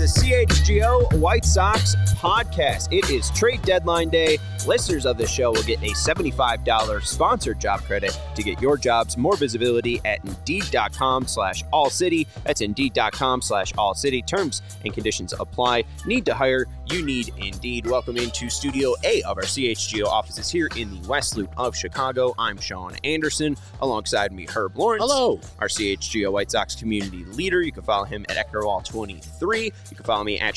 the CHGO White Sox podcast. It is trade deadline day. Listeners of this show will get a $75 sponsored job credit to get your jobs more visibility at Indeed.com/AllCity. That's Indeed.com/AllCity. Terms and conditions apply. Need to hire? You need Indeed. Welcome into Studio A of our CHGO offices here in the West Loop of Chicago. I'm Sean Anderson. Alongside me, Herb Lawrence. Hello. Our CHGO White Sox community leader. You can follow him at Eckerwall23. You can follow me at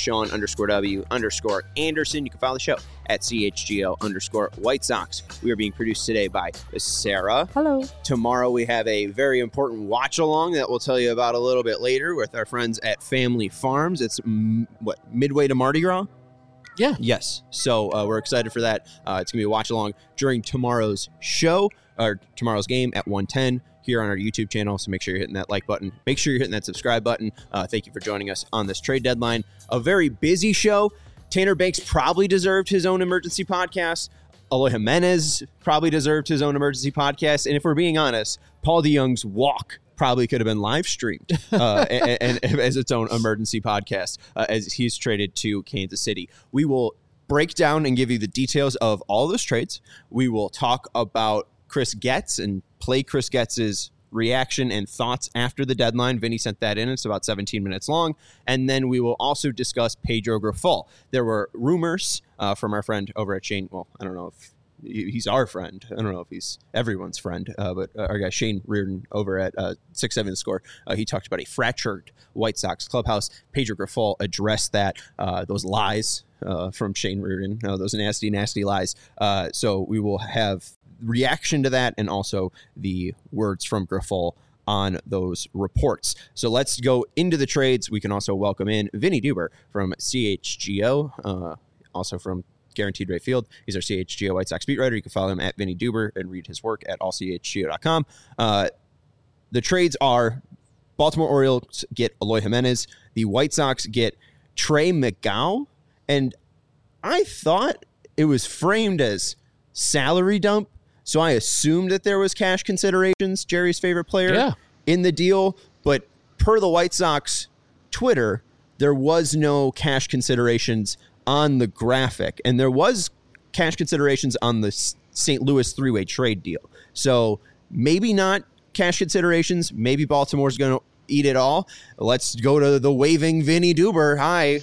Sean_W_Anderson. You can follow the show at CHGO_White Sox. We are being produced today by Sarah. Hello. Tomorrow we have a very important watch along that we'll tell you about a little bit later with our friends at Family Farms. It's midway to Mardi Gras? Yeah. Yes. So we're excited for that. It's going to be a watch along during tomorrow's show or tomorrow's game at 1:10 here on our YouTube channel. So make sure you're hitting that like button. Make sure you're hitting that subscribe button. Thank you for joining us on this trade deadline. A very busy show. Tanner Banks probably deserved his own emergency podcast. Eloy Jimenez probably deserved his own emergency podcast. And if we're being honest, Paul DeJong's walk probably could have been live streamed and as its own emergency podcast as he's traded to Kansas City. We will break down and give you the details of all those trades. We will talk about Chris Getz and play Chris Getz's reaction and thoughts after the deadline. Vinny sent that in. It's about 17 minutes long. And then we will also discuss Pedro Grifol. There were rumors from our friend over at Shane. Well, I don't know if he's our friend. I don't know if he's everyone's friend, but our guy Shane Reardon over at 670 The Score, he talked about a fractured White Sox clubhouse. Pedro Grifol addressed that, those lies from Shane Reardon, those nasty, nasty lies. So we will have reaction to that and also the words from Grifol on those reports. So let's go into the trades. We can also welcome in Vinny Duber from CHGO, also from Guaranteed Rate Field. He's our CHGO White Sox beat writer. You can follow him at Vinny Duber and read his work at allchgo.com. The trades are Baltimore Orioles get Eloy Jimenez. The White Sox get Trey McGowan. And I thought it was framed as salary dump, so I assumed that there was cash considerations, Jerry's favorite player, in the deal. But per the White Sox Twitter, there was no cash considerations on the graphic. And there was cash considerations on the St. Louis three-way trade deal. So maybe not cash considerations. Maybe Baltimore's going to eat it all. Let's go to the waving Vinny Duber. Hi.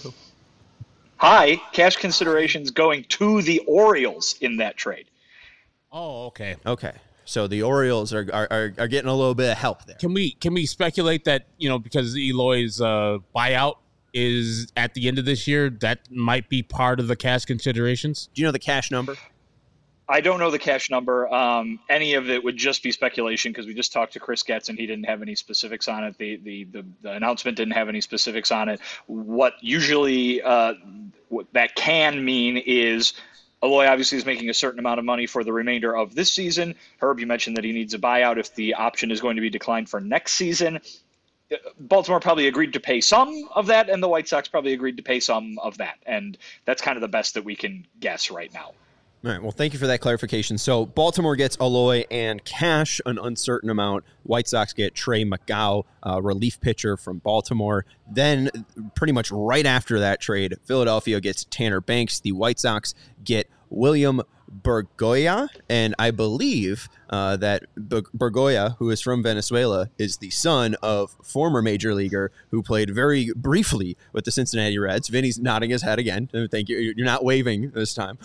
Hi. Cash considerations going to the Orioles in that trade. Oh, okay. Okay. So the Orioles are getting a little bit of help there. Can we speculate that, because Eloy's buyout is at the end of this year, that might be part of the cash considerations? Do you know the cash number? I don't know the cash number. Any of it would just be speculation because we just talked to Chris Getz and he didn't have any specifics on it. The announcement didn't have any specifics on it. What usually what that can mean is Eloy obviously is making a certain amount of money for the remainder of this season. Herb, you mentioned that he needs a buyout if the option is going to be declined for next season. Baltimore probably agreed to pay some of that, and the White Sox probably agreed to pay some of that. And that's kind of the best that we can guess right now. All right. Well, thank you for that clarification. So Baltimore gets Eloy and cash, an uncertain amount. White Sox get Trey McGowan, relief pitcher from Baltimore. Then pretty much right after that trade, Philadelphia gets Tanner Banks. The White Sox get William Bergoya, and I believe that Bergoya, who is from Venezuela, is the son of former major leaguer who played very briefly with the Cincinnati Reds. Vinny's nodding his head again. Thank you. You're not waving this time.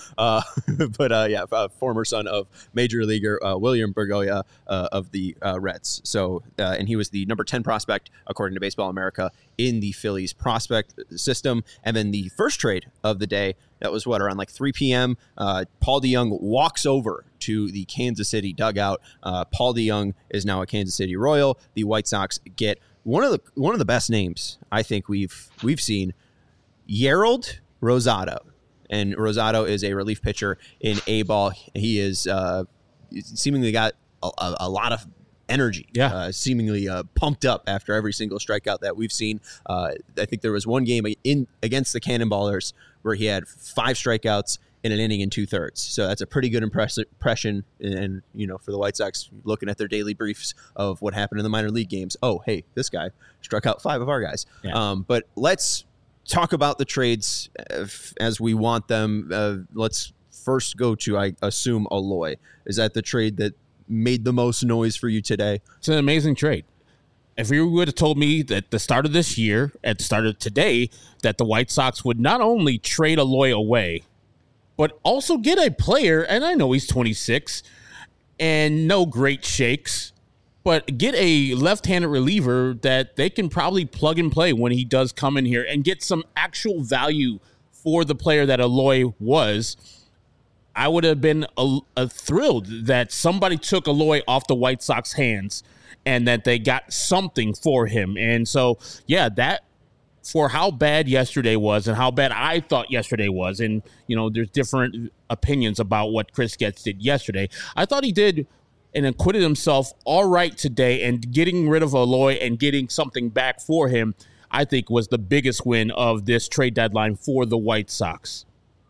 Former son of major leaguer William Bergoya of the Reds. So, and he was the number 10 prospect, according to Baseball America, in the Phillies prospect system. And then the first trade of the day, that was around like 3 p.m. Paul DeJong walks over to the Kansas City dugout. Paul DeJong is now a Kansas City Royal. The White Sox get one of the best names I think we've seen, Yerald Rosado. And Rosado is a relief pitcher in A-ball. He is seemingly got a lot of energy, seemingly pumped up after every single strikeout that we've seen. I think there was one game against the Cannonballers where he had 5 strikeouts in an inning and 2/3. So that's a pretty good impression. And, for the White Sox, looking at their daily briefs of what happened in the minor league games. Oh, hey, this guy struck out 5 of our guys. Yeah. But let's talk about the trades as we want them. Let's first go to, I assume, Eloy. Is that the trade that made the most noise for you today? It's an amazing trade. If you would have told me at the start of this year, at the start of today, that the White Sox would not only trade Eloy away, but also get a player, and I know he's 26, and no great shakes, but get a left-handed reliever that they can probably plug and play when he does come in here and get some actual value for the player that Eloy was, I would have been thrilled that somebody took Eloy off the White Sox hands and that they got something for him. And so, yeah, that for how bad yesterday was and how bad I thought yesterday was, and, you know, there's different opinions about what Chris Getz did yesterday. I thought he did and acquitted himself all right today, and getting rid of Eloy and getting something back for him, I think, was the biggest win of this trade deadline for the White Sox.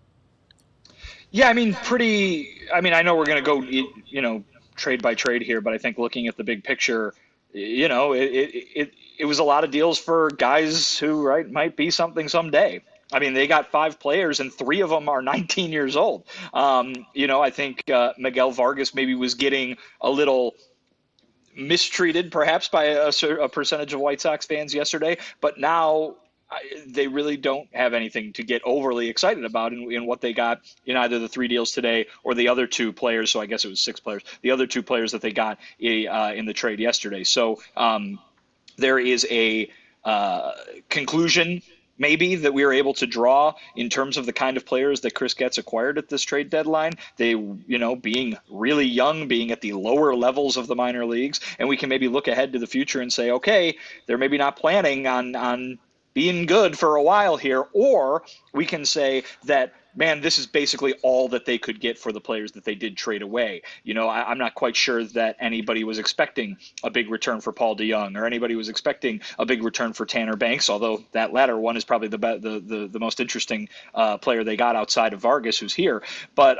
Yeah, I mean, I know we're going to go, you know, trade by trade here, but I think looking at the big picture, you know, it was a lot of deals for guys who, right, might be something someday. I mean, they got 5 players and 3 of them are 19 years old. You know, I think Miguel Vargas maybe was getting a little mistreated perhaps by a percentage of White Sox fans yesterday, but now they really don't have anything to get overly excited about in what they got in either the 3 deals today or the other 2 players. So I guess it was 6 players, the other 2 players that they got in the trade yesterday. So there is a conclusion maybe that we were able to draw in terms of the kind of players that Chris Getz acquired at this trade deadline. They, you know, being really young, being at the lower levels of the minor leagues, and we can maybe look ahead to the future and say, okay, they're maybe not planning on being good for a while here, or we can say that, man, this is basically all that they could get for the players that they did trade away. You know, I'm not quite sure that anybody was expecting a big return for Paul DeJong, or anybody was expecting a big return for Tanner Banks, although that latter one is probably the most interesting player they got outside of Vargas, who's here. But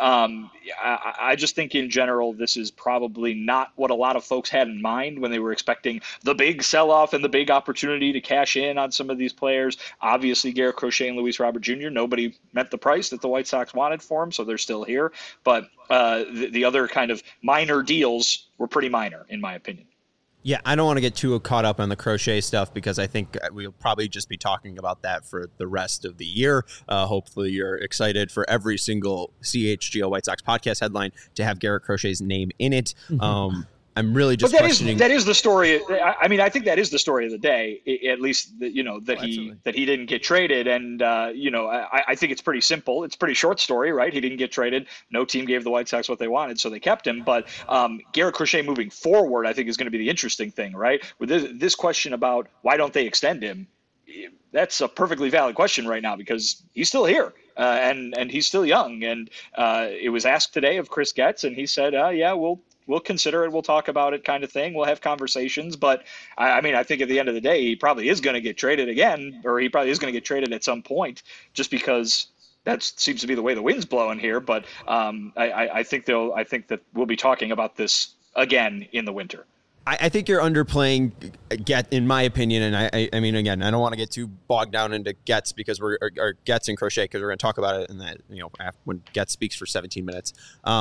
I just think in general, this is probably not what a lot of folks had in mind when they were expecting the big sell-off and the big opportunity to cash in on some of these players. Obviously, Garrett Crochet and Luis Robert Jr., nobody met the price that the White Sox wanted for him, so they're still here. But the other kind of minor deals were pretty minor, in my opinion. Yeah, I don't want to get too caught up on the Crochet stuff because I think we'll probably just be talking about that for the rest of the year. Hopefully you're excited for every single CHGO White Sox podcast headline to have Garrett Crochet's name in it. I'm really just questioning. That is the story. I mean, I think that is the story of the day, at least, you know, that he didn't get traded. And, you know, I think it's pretty simple. It's a pretty short story, right? He didn't get traded. No team gave the White Sox what they wanted, so they kept him. But Garrett Crochet moving forward, I think, is going to be the interesting thing, right? With this question about why don't they extend him, that's a perfectly valid question right now because he's still here. And he's still young. And it was asked today of Chris Getz, and he said, yeah, we'll consider it. We'll talk about it, kind of thing. We'll have conversations. But I mean, I think at the end of the day, he probably is going to get traded again, or he probably is going to get traded at some point just because that seems to be the way the wind's blowing here. But I think that we'll be talking about this again in the winter. I think you're underplaying Getz, in my opinion, and I mean, again, I don't want to get too bogged down into Getz because or Getz and Crochet because we're going to talk about it in that, you know, when Getz speaks for 17 minutes.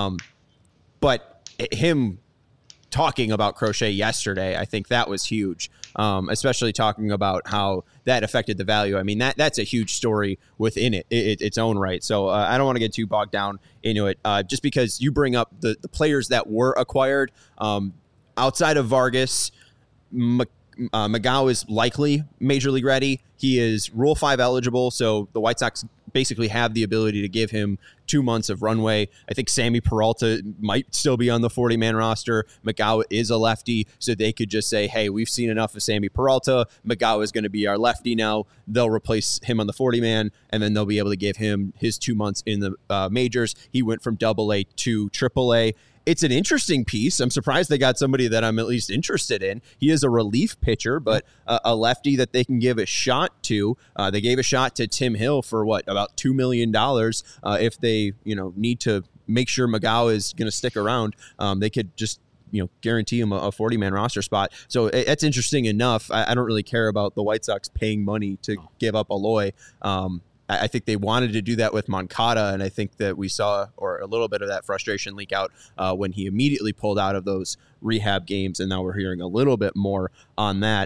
But him talking about Crochet yesterday, I think that was huge, especially talking about how that affected the value. I mean, that's a huge story within its own right. So I don't want to get too bogged down into it. Just because you bring up the players that were acquired, outside of Vargas, Magau is likely Major League ready. He is Rule 5 eligible, so the White Sox basically have the ability to give him 2 months of runway. I think Sammy Peralta might still be on the 40-man roster. Magau is a lefty, so they could just say, hey, we've seen enough of Sammy Peralta. Magau is going to be our lefty now. They'll replace him on the 40-man, and then they'll be able to give him his 2 months in the majors. He went from AA to AAA. It's an interesting piece. I'm surprised they got somebody that I'm at least interested in. He is a relief pitcher, but a lefty that they can give a shot to. They gave a shot to Tim Hill for about $2 million. If they, need to make sure Magau is going to stick around, they could just guarantee him a 40-man roster spot. So it's interesting enough. I don't really care about the White Sox paying money to give up Eloy. I think they wanted to do that with Moncada, and I think that we saw a little bit of that frustration leak out when he immediately pulled out of those rehab games, and now we're hearing a little bit more on that.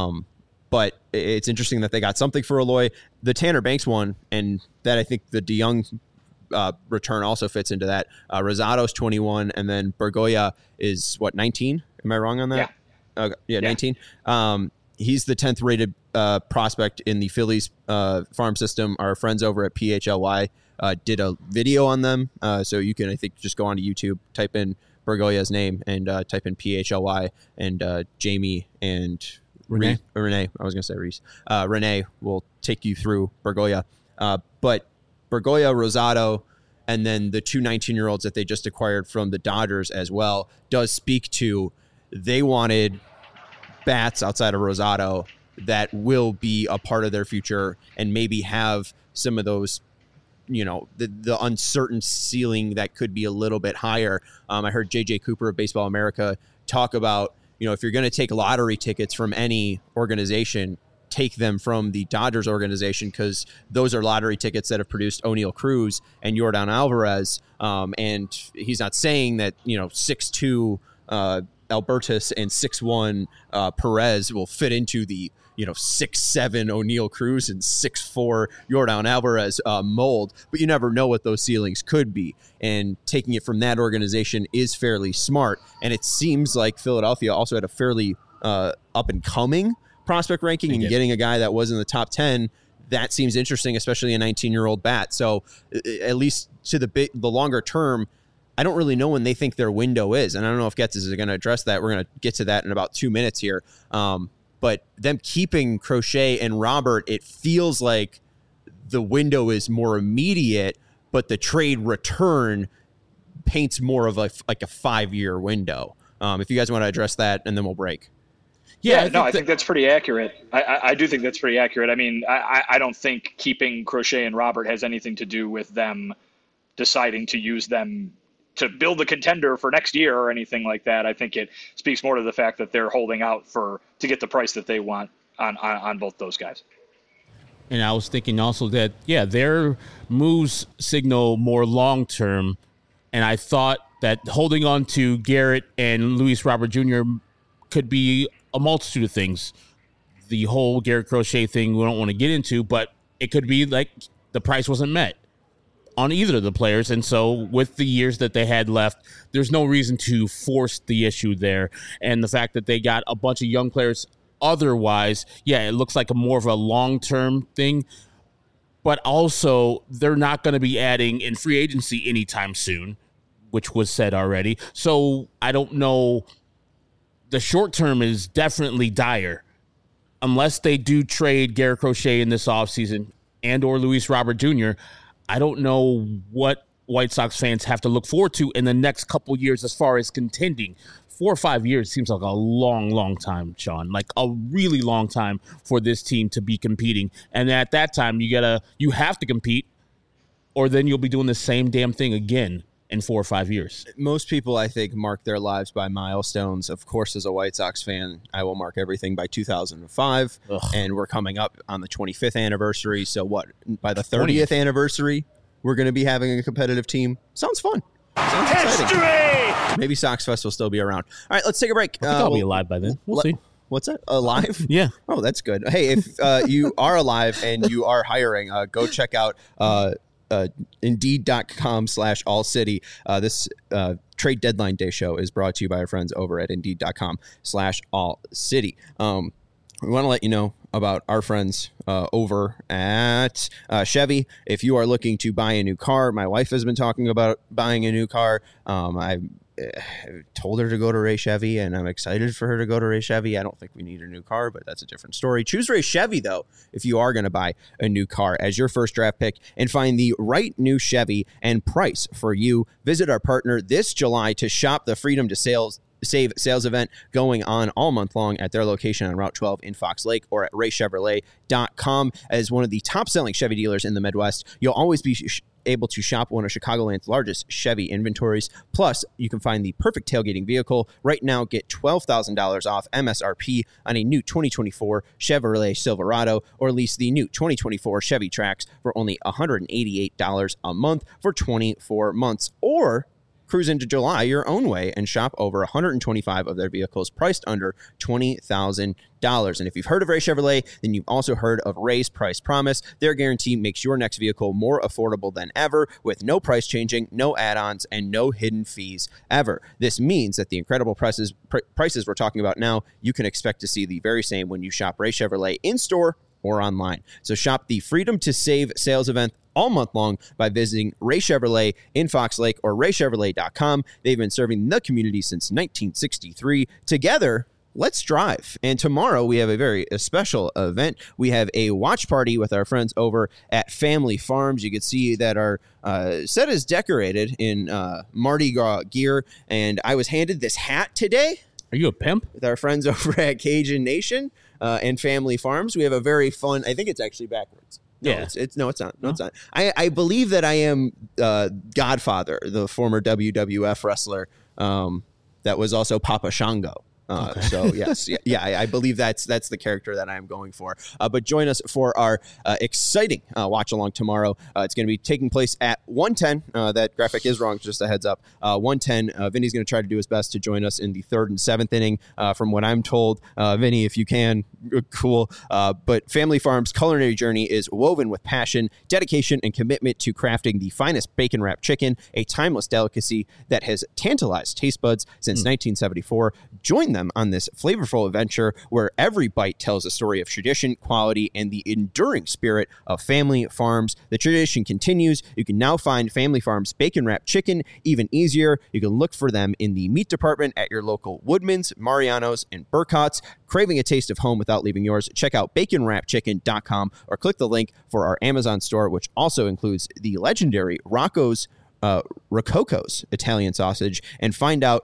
But it's interesting that they got something for Eloy. The Tanner Banks one, and that I think the DeYoung return also fits into that. Rosado's 21, and then Bergoya is, 19? Am I wrong on that? Yeah. Okay. Yeah, 19. He's the 10th rated prospect in the Phillies farm system. Our friends over at PHLY did a video on them. So you can, I think, just go onto YouTube, type in Bergoya's name, and type in PHLY, and Jamie and Renee. I was going to say Reese. Renee will take you through Bergoya. But Bergoya, Rosado, and then the two 19-year-olds that they just acquired from the Dodgers as well does speak to they wanted bats outside of Rosado that will be a part of their future and maybe have some of those, the uncertain ceiling that could be a little bit higher. I heard JJ Cooper of Baseball America talk about, if you're going to take lottery tickets from any organization, take them from the Dodgers organization, because those are lottery tickets that have produced O'Neal Cruz and Yordan Alvarez. And he's not saying that, 6'2", Albertus and 6'1", Perez will fit into the 6'7" O'Neal Cruz and 6'4" Yordan Alvarez mold, but you never know what those ceilings could be. And taking it from that organization is fairly smart. And it seems like Philadelphia also had a fairly up and coming prospect ranking, and getting a guy that was in the top 10. That seems interesting, especially a 19-year-old bat. So at least to the longer term, I don't really know when they think their window is. And I don't know if Getz is going to address that. We're going to get to that in about 2 minutes here. But them keeping Crochet and Robert, it feels like the window is more immediate, but the trade return paints more of like a 5-year window. If you guys want to address that, and then we'll break. I think that's pretty accurate. I do think that's pretty accurate. I mean, I don't think keeping Crochet and Robert has anything to do with them deciding to use them to build a contender for next year or anything like that. I think it speaks more to the fact that they're holding out to get the price that they want on both those guys. And I was thinking also that, their moves signal more long-term. And I thought that holding on to Garrett and Luis Robert Jr. could be a multitude of things. The whole Garrett Crochet thing we don't want to get into, but it could be like the price wasn't met on either of the players. And so with the years that they had left, there's no reason to force the issue there. And the fact that they got a bunch of young players otherwise, it looks like more of a long-term thing. But also, they're not going to be adding in free agency anytime soon, which was said already. So I don't know. The short term is definitely dire. Unless they do trade Garrett Crochet in this offseason and or Luis Robert Jr., I don't know what White Sox fans have to look forward to in the next couple years as far as contending. 4 or 5 years seems like a long, long time, Sean. Like a really long time for this team to be competing. And at that time, you have to compete, or then you'll be doing the same damn thing again in 4 or 5 years. Most people, I think, mark their lives by milestones. Of course, as a White Sox fan, I will mark everything by 2005. And we're coming up on the 25th anniversary. So by the 30th anniversary, we're going to be having a competitive team. Sounds fun. Sounds exciting. Maybe Sox Fest will still be around. All right, let's take a break. I think I'll be alive by then. We'll see. What's that? Alive? Yeah. Oh, that's good. Hey, if you are alive and you are hiring, go check out Indeed.com/allcity. This trade deadline day show is brought to you by our friends over at Indeed.com/allcity. We want to let you know about our friends over at Chevy. If you are looking to buy a new car, my wife has been talking about buying a new car. I told her to go to Ray Chevy, and I'm excited for her to go to Ray Chevy. I don't think we need a new car, but that's a different story. Choose Ray Chevy, though, if you are going to buy a new car as your first draft pick, and find the right new Chevy and price for you. Visit our partner this July to shop the Freedom to Save sales event going on all month long at their location on Route 12 in Fox Lake, or at raychevrolet.com. As one of the top selling Chevy dealers in the Midwest, you'll always be able to shop one of Chicagoland's largest Chevy inventories. Plus, you can find the perfect tailgating vehicle. Right now, get $12,000 off MSRP on a new 2024 Chevrolet Silverado, or lease the new 2024 Chevy Trax for only $188 a month for 24 months. Or cruise into July your own way and shop over 125 of their vehicles priced under $20,000. And if you've heard of Ray Chevrolet, then you've also heard of Ray's Price Promise. Their guarantee makes your next vehicle more affordable than ever, with no price changing, no add-ons, and no hidden fees ever. This means that the incredible prices we're talking about now, you can expect to see the very same when you shop Ray Chevrolet in-store or online. So shop the Freedom to Save sales event all month long by visiting Ray Chevrolet in Fox Lake or raychevrolet.com. They've been serving the community since 1963. Together, let's drive. And tomorrow we have a very special event. We have a watch party with our friends over at Family Farms. You can see that our set is decorated in Mardi Gras gear, and I was handed this hat today. Are you a pimp? With our friends over at Cajun Nation and Family Farms. We have a very fun, I think it's actually backwards. No, yeah. It's not. No, it's not. I believe that I am Godfather, the former WWF wrestler that was also Papa Shango. Okay. So yes, I believe that's the character that I am going for. But join us for our exciting watch along tomorrow. It's going to be taking place at 1:10. That graphic is wrong. Just a heads up. 1:10. Vinny's going to try to do his best to join us in the 3rd and 7th inning. From what I'm told, Vinny, if you can, cool. But Family Farms' culinary journey is woven with passion, dedication, and commitment to crafting the finest bacon wrapped chicken, a timeless delicacy that has tantalized taste buds since 1974. Join them on this flavorful adventure where every bite tells a story of tradition, quality, and the enduring spirit of Family Farms. The tradition continues. You can now find Family Farms bacon wrapped chicken even easier. You can look for them in the meat department at your local Woodman's, Mariano's, and Burkhott's. Craving a taste of home without leaving yours? Check out baconwrappedchicken.com or click the link for our Amazon store, which also includes the legendary Rococo's Italian sausage, and find out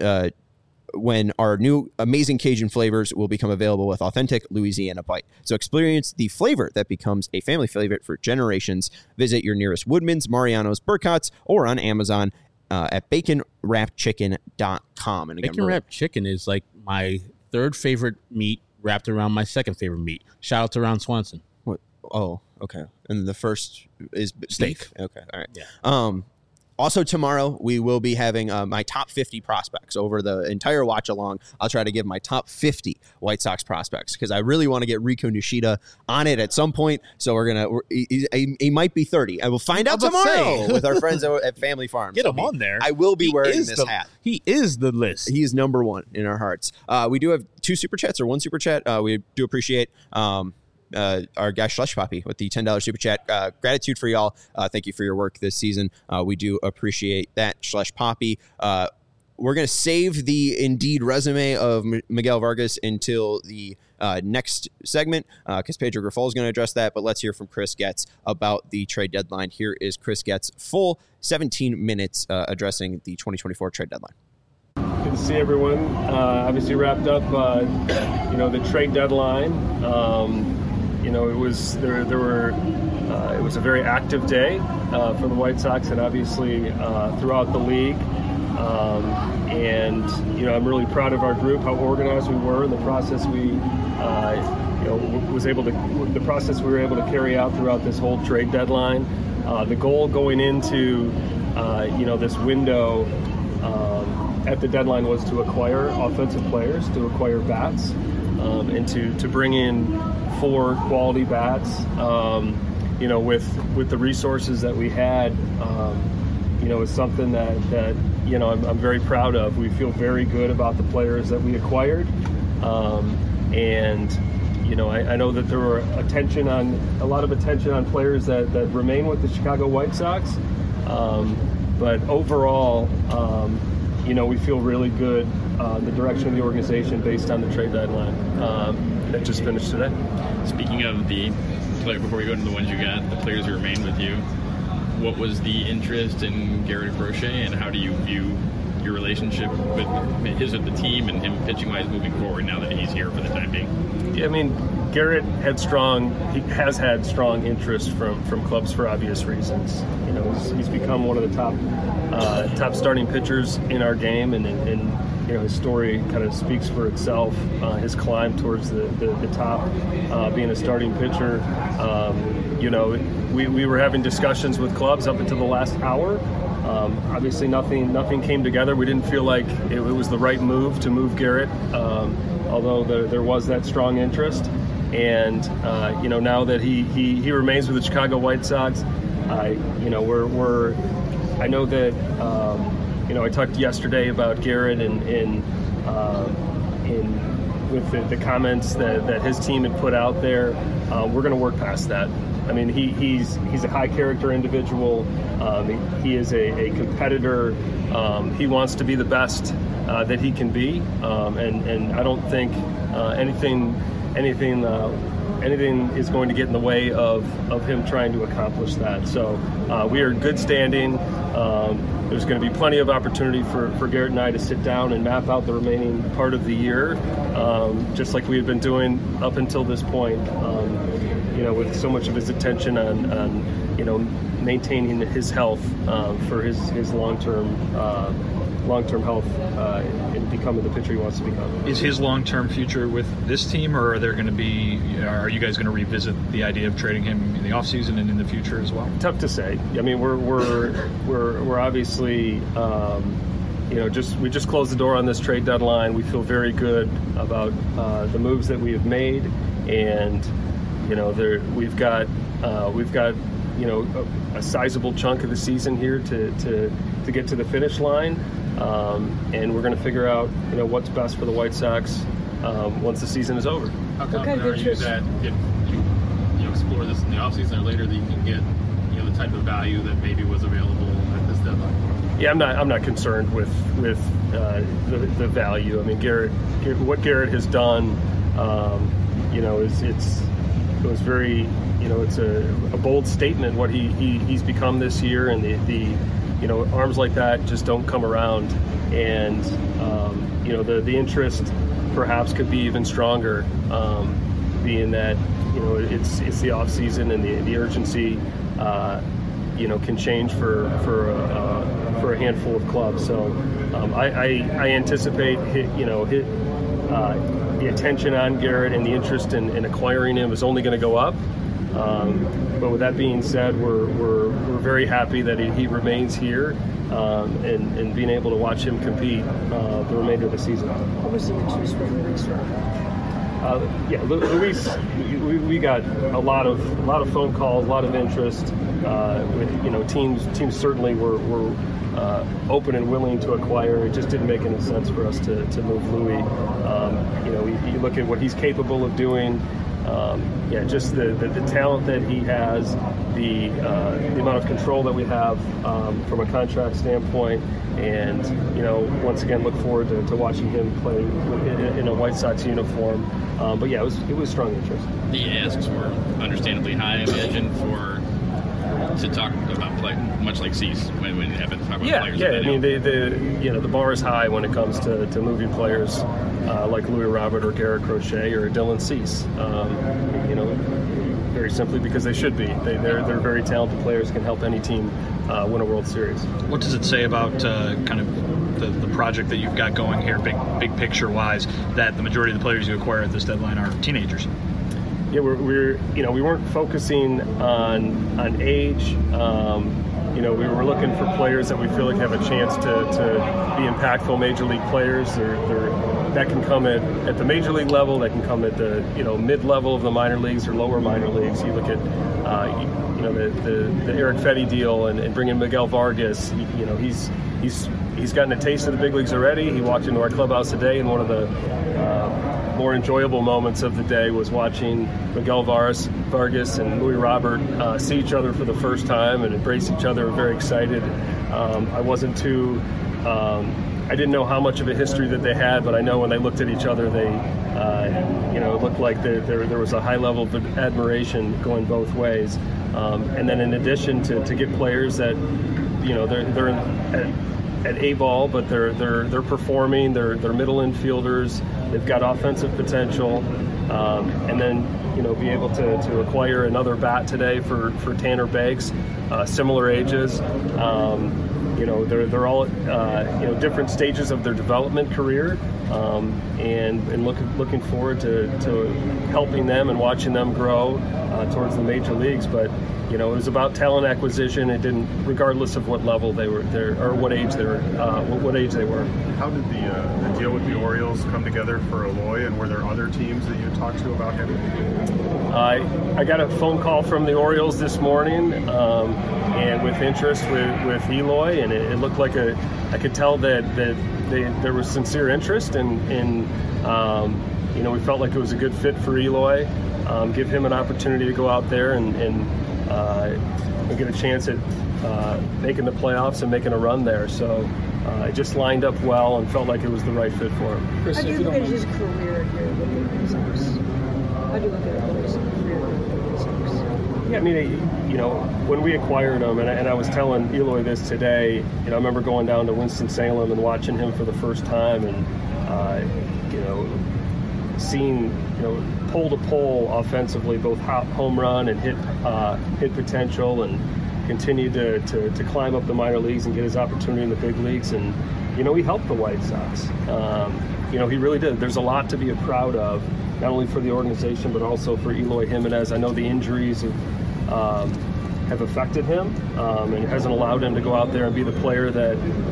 when our new amazing Cajun flavors will become available with authentic Louisiana bite. So experience the flavor that becomes a family favorite for generations. Visit your nearest Woodman's, Mariano's, Burkhott's, or on Amazon at baconwrappedchicken.com. And again, bacon wrapped chicken is like my 3rd favorite meat wrapped around my 2nd favorite meat. Shout out to Ron Swanson. What? Oh, okay. And the first is steak. Beef? Okay, all right. Yeah. Also tomorrow, we will be having my top 50 prospects over the entire watch along. I'll try to give my top 50 White Sox prospects because I really want to get Rico Nishida on it at some point. So he might be 30. I will find out tomorrow with our friends at Family Farms. Get him on there. I will be wearing this hat. He is the list. He is number 1 in our hearts. We do have 2 super chats or 1 super chat. We do appreciate our guy Slush Poppy with the $10 super chat. Gratitude for y'all. Thank you for your work this season. We do appreciate that, Slush Poppy. We're going to save the Indeed resume of Miguel Vargas until the next segment because Pedro Grifol is going to address that. But let's hear from Chris Getz about the trade deadline. Here is Chris Getz, full 17 minutes addressing the 2024 trade deadline. Good to see everyone. Obviously wrapped up, the trade deadline. It was it was a very active day for the White Sox and obviously throughout the league. I'm really proud of our group, how organized we were, and the process we were able to carry out throughout this whole trade deadline. The goal going into this window at the deadline was to acquire offensive players, to acquire bats, and to bring in 4 quality bats. With the resources that we had, is something that I'm very proud of. We feel very good about the players that we acquired, I know that there were a lot of attention on players that remain with the Chicago White Sox, but overall, we feel really good the direction of the organization based on the trade deadline that just finished today. Speaking of the player, before we go into the ones you got, the players who remain with you, what was the interest in Garrett Crochet, and how do you view your relationship with the team and him pitching-wise moving forward now that he's here for the time being? Yeah, I mean, Garrett has had strong interest from clubs for obvious reasons. You know, he's become one of the top starting pitchers in our game, and you know, his story kind of speaks for itself. His climb towards the top, being a starting pitcher. You know, we were having discussions with clubs up until the last hour. Obviously, nothing came together. We didn't feel like it was the right move to move Garrett, although there was that strong interest. And you know, now that he remains with the Chicago White Sox, you know, I know that you know, I talked yesterday about Garrett and with the comments that his team had put out there. We're going to work past that. I mean, he's a high character individual. He is a competitor. He wants to be the best that he can be, and I don't think anything is going to get in the way of him trying to accomplish that. So we are in good standing. There's going to be plenty of opportunity for Garrett and I to sit down and map out the remaining part of the year, just like we had been doing up until this point. You know, with so much of his attention on you know, maintaining his health for his long-term health and becoming the pitcher he wants to become. Is his long-term future with this team, or are you guys going to revisit the idea of trading him in the offseason and in the future as well? Tough to say. I mean, we're obviously you know, we just closed the door on this trade deadline. We feel very good about the moves that we have made, and you know, we've got you know, a sizable chunk of the season here to get to the finish line, and we're going to figure out, you know, what's best for the White Sox once the season is over. How confident are you that if you explore this in the offseason or later, that you can get, you know, the type of value that maybe was available at this deadline? Yeah, I'm not concerned with the value. I mean, what Garrett has done, you know, it was very, you know, it's a bold statement what he's become this year, and the you know, arms like that just don't come around, and you know, the interest perhaps could be even stronger, being that, you know, it's the off season, and the urgency you know, can change for a handful of clubs. So I anticipate the attention on Garrett and the interest in acquiring him is only going to go up. But with that being said, we're very happy that he remains here, and being able to watch him compete the remainder of the season. What was the interest from Luis? Yeah, Luis, we got a lot of phone calls, a lot of interest. With, you know, teams certainly were open and willing to acquire. It just didn't make any sense for us to move Louis. You know, you look at what he's capable of doing. Yeah, just the talent that he has, the amount of control that we have from a contract standpoint, and, you know, once again, look forward to watching him play in a White Sox uniform. But yeah, it was strong interest. The asks were understandably high, I imagine, to talk about play, much like Cease when it happens to talk about players. Yeah. I mean, the bar is high when it comes to moving players like Louis Robert or Garrett Crochet or Dylan Cease. You know, very simply because they should be. They're very talented players, can help any team win a World Series. What does it say about kind of the project that you've got going here, big picture wise, that the majority of the players you acquire at this deadline are teenagers? Yeah, we weren't focusing on age. You know, we were looking for players that we feel like have a chance to be impactful major league players. That can come at the major league level. That can come at the, you know, mid level of the minor leagues or lower minor leagues. You look at you know, the Eric Fetty deal and bringing Miguel Vargas. You know, he's gotten a taste of the big leagues already. He walked into our clubhouse today, and one of the more enjoyable moments of the day was watching Miguel Vargas and Louis Robert see each other for the first time and embrace each other. Very excited. I didn't know how much of a history that they had, but I know when they looked at each other, they, you know, it looked like there was a high level of admiration going both ways. And then in addition to get players that, you know, they're at A-ball, but they're performing. They're middle infielders. They've got offensive potential, and then be able to acquire another bat today for Tanner Beggs, similar ages. They're all different stages of their development career, and looking forward to helping them and watching them grow towards the major leagues. But it was about talent acquisition. It didn't, regardless of what level they were there or what age they were. How did the deal with the Orioles come together for Eloy, and were there other teams that you talked to about him? I got a phone call from the Orioles this morning, and with interest with Eloy, and it looked like I could tell that there was sincere interest, and we felt like it was a good fit for Eloy. Give him an opportunity to go out there and get a chance at making the playoffs and making a run there. So it just lined up well and felt like it was the right fit for him. How do you look at his career here with the Red Sox? How do you look at his career with the Red Sox? Yeah, I mean, when we acquired him, and I was telling Eloy this today, I remember going down to Winston-Salem and watching him for the first time, and seeing pole to pole offensively, both home run and hit potential, and continue to climb up the minor leagues and get his opportunity in the big leagues. And he helped the White Sox. He really did. There's a lot to be proud of, not only for the organization but also for Eloy Jimenez. I know the injuries have affected him, and it hasn't allowed him to go out there and be the player that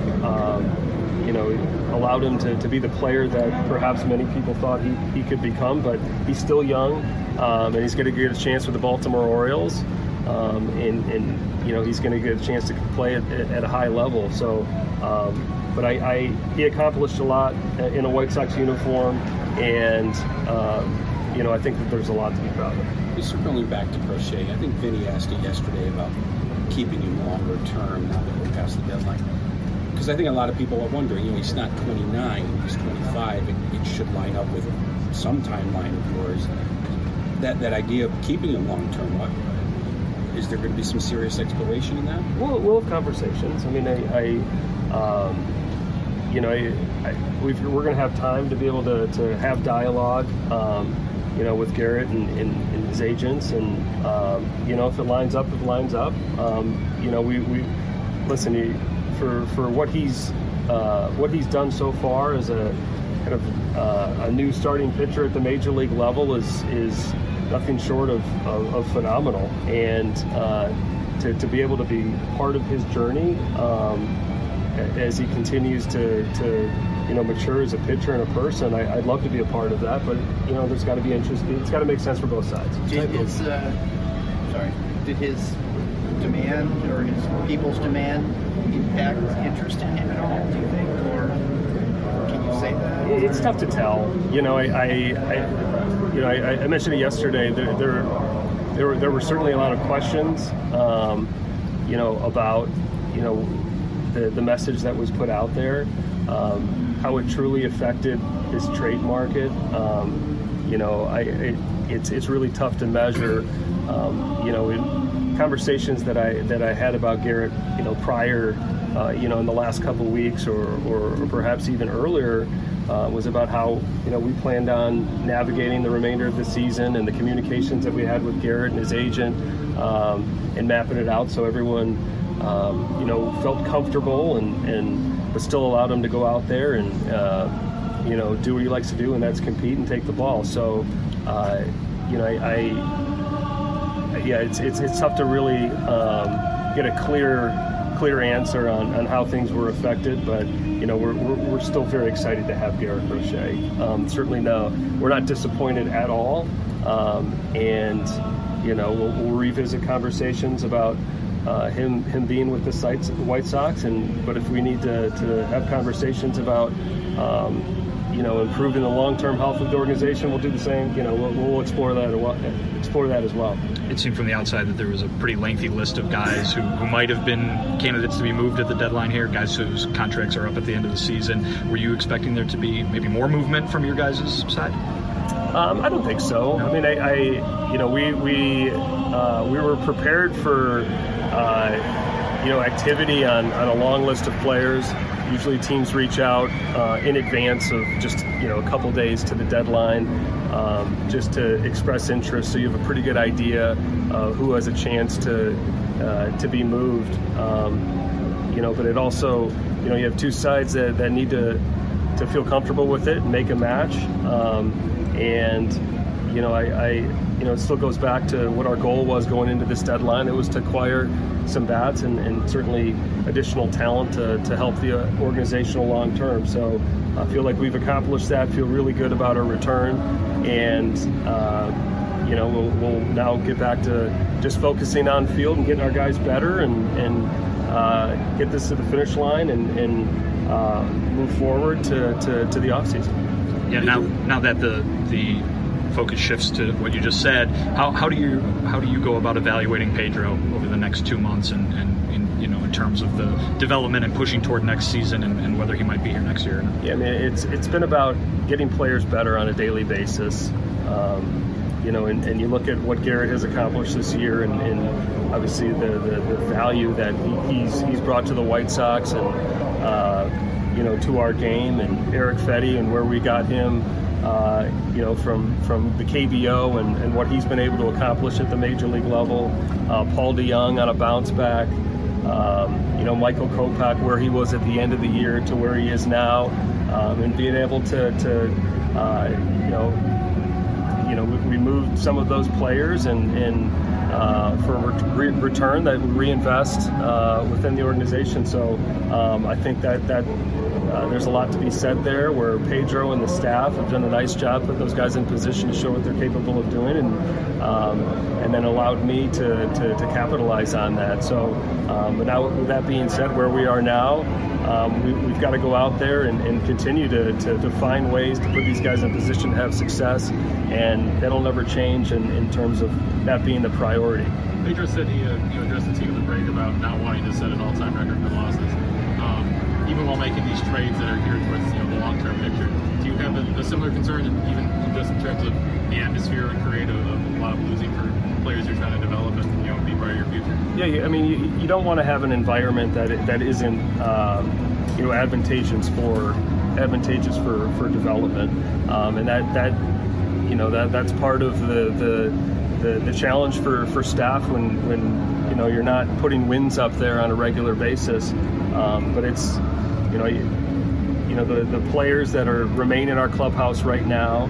allowed him to be the player that perhaps many people thought he could become. But he's still young, and he's going to get a chance with the Baltimore Orioles, and he's going to get a chance to play at a high level. So, but he accomplished a lot in a White Sox uniform, and I think that there's a lot to be proud of. Circling back to Crochet, I think Vinny asked you yesterday about keeping him longer term now that we're past the deadline. Because I think a lot of people are wondering, he's not 29, he's 25. It should line up with some timeline of yours. That idea of keeping him long term, is there going to be some serious exploration in that? We'll have conversations. I mean, we're going to have time to be able to have dialogue, with Garrett and his agents, and if it lines up, it lines up. We listen. For what he's done so far as a kind of a new starting pitcher at the major league level is nothing short of phenomenal, and to be able to be part of his journey as he continues to mature as a pitcher and a person, I'd love to be a part of that. But there's got to be interest. It's got to make sense for both sides. Did his demand or his people's demand impact interest in him at all, do you think, or can you say that? It's tough to tell. I mentioned it yesterday. There were certainly a lot of questions, about the message that was put out there, how it truly affected his trade market. It's really tough to measure. In conversations that I had about Garrett, prior, in the last couple of weeks or perhaps even earlier, was about how, we planned on navigating the remainder of the season, and the communications that we had with Garrett and his agent, and mapping it out so everyone, felt comfortable but still allowed him to go out there and, do what he likes to do, and that's compete and take the ball. So, it's tough to really get a clear answer on how things were affected, but we're still very excited to have Garrett Crochet. Certainly, we're not disappointed at all, and we'll revisit conversations about him being with the White Sox, but if we need to have conversations about improving the long-term health of the organization, we'll do the same. We'll explore that as well. It seemed from the outside that there was a pretty lengthy list of guys who might have been candidates to be moved at the deadline here, guys whose contracts are up at the end of the season. Were you expecting there to be maybe more movement from your guys' side? I don't think so. I mean, we were prepared for activity on a long list of players. Usually teams reach out in advance of just a couple days to the deadline, just to express interest, so you have a pretty good idea who has a chance to be moved. But it also, you have two sides that need to feel comfortable with it and make a match. It still goes back to what our goal was going into this deadline. It was to acquire some bats and certainly additional talent to help the organizational long term. So I feel like we've accomplished that, feel really good about our return, and we'll now get back to just focusing on field and getting our guys better and get this to the finish line and move forward to the offseason. Yeah, now that the focus shifts to what you just said, how do you go about evaluating Pedro over the next 2 months and in terms of the development and pushing toward next season and whether he might be here next year or not? Yeah, I mean, it's been about getting players better on a daily basis. And you look at what Garrett has accomplished this year and obviously the value that he's brought to the White Sox and to our game, and Erick Fedde and where we got him from the KBO and what he's been able to accomplish at the major league level. Paul DeJong on a bounce back. Michael Kopech, where he was at the end of the year to where he is now, and being able to we moved some of those players and for return that we reinvest within the organization. So I think that there's a lot to be said there, where Pedro and the staff have done a nice job putting those guys in position to show what they're capable of doing, and then allowed me to capitalize on that. So, but now with that being said, where we are now, we've got to go out there and continue to find ways to put these guys in position to have success, and that'll never change in terms of that being the priority. Pedro said he addressed the team in the break about not wanting to set an all-time record for losses. Even while making these trades that are geared towards the long-term picture, do you have a similar concern, even just in terms of the atmosphere and create a lot of losing for players you're trying to develop and be part of your future? Yeah, I mean, you don't want to have an environment that isn't advantageous for development, and that's part of the challenge for staff when you're not putting wins up there on a regular basis, but it's the players that remain in our clubhouse right now.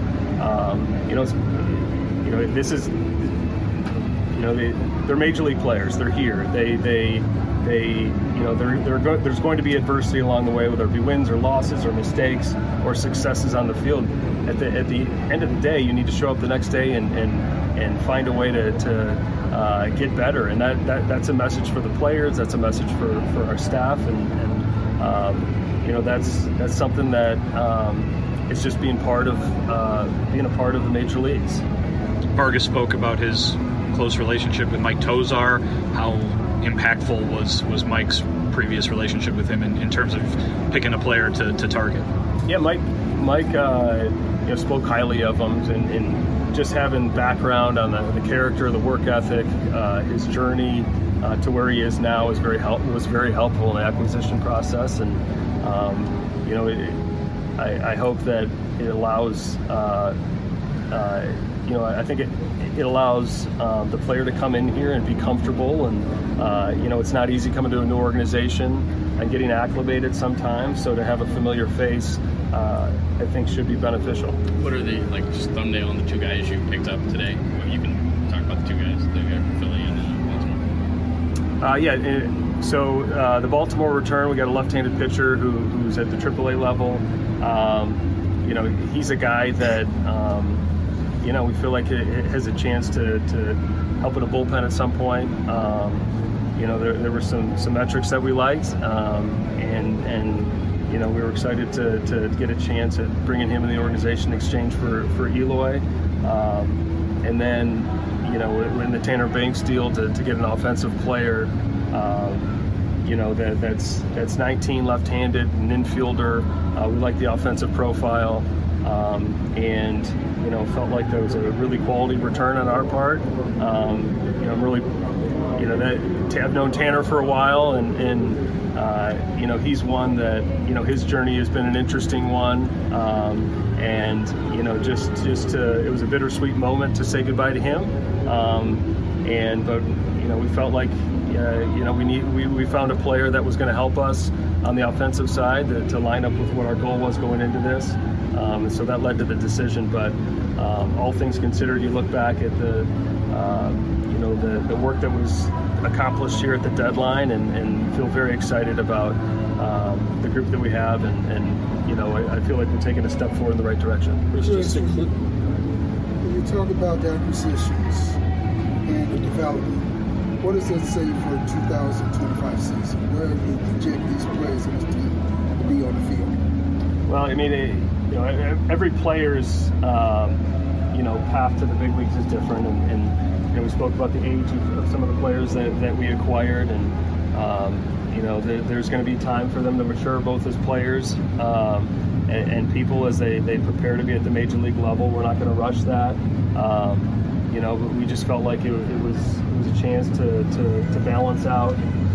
This is they're major league players. They're here. There's going to be adversity along the way, whether it be wins or losses or mistakes or successes on the field. At the end of the day, you need to show up the next day and find a way to get better. And that's a message for the players. That's a message for our staff, and that's something that is just being a part of the major leagues. Vargas spoke about his close relationship with Mike Tosar. How impactful was Mike's previous relationship with him in terms of picking a player to target? Yeah, Mike spoke highly of him, and just having background on the character, the work ethic, his journey to where he is now was very helpful in the acquisition process. And I hope that it allows I think it allows the player to come in here and be comfortable, and it's not easy coming to a new organization and getting acclimated sometimes, so to have a familiar face I think should be beneficial. What are the, just thumbnail on the two guys you picked up today? You can talk about the two guys, the guy from Philly and Baltimore. So the Baltimore return, we got a left-handed pitcher who's at the AAA level. He's a guy that we feel like it has a chance to help in a bullpen at some point. There were some metrics that we liked, and we were excited to get a chance at bringing him in the organization in exchange for Eloy. And then, in the Tanner Banks deal to get an offensive player, that's 19, left-handed, an infielder. We like the offensive profile. and felt like there was a really quality return on our part. I'm really, that I've known Tanner for a while, and he's one that his journey has been an interesting one, and it was a bittersweet moment to say goodbye to him, but we felt like we found a player that was going to help us on the offensive side to line up with what our goal was going into this, and so that led to the decision. But all things considered, you look back at the work that was accomplished here at the deadline, and feel very excited about the group that we have, and I feel like we're taking a step forward in the right direction. When you talk about the acquisitions and the development, what does that say for 2025 season? Where do you project these players in this team to be on the field? Well, I mean, every player's path to the big leagues is different, and we spoke about the age of some of the players that we acquired, and there's going to be time for them to mature both as players and people as they prepare to be at the major league level. We're not going to rush that. But we just felt like it was a chance to balance out,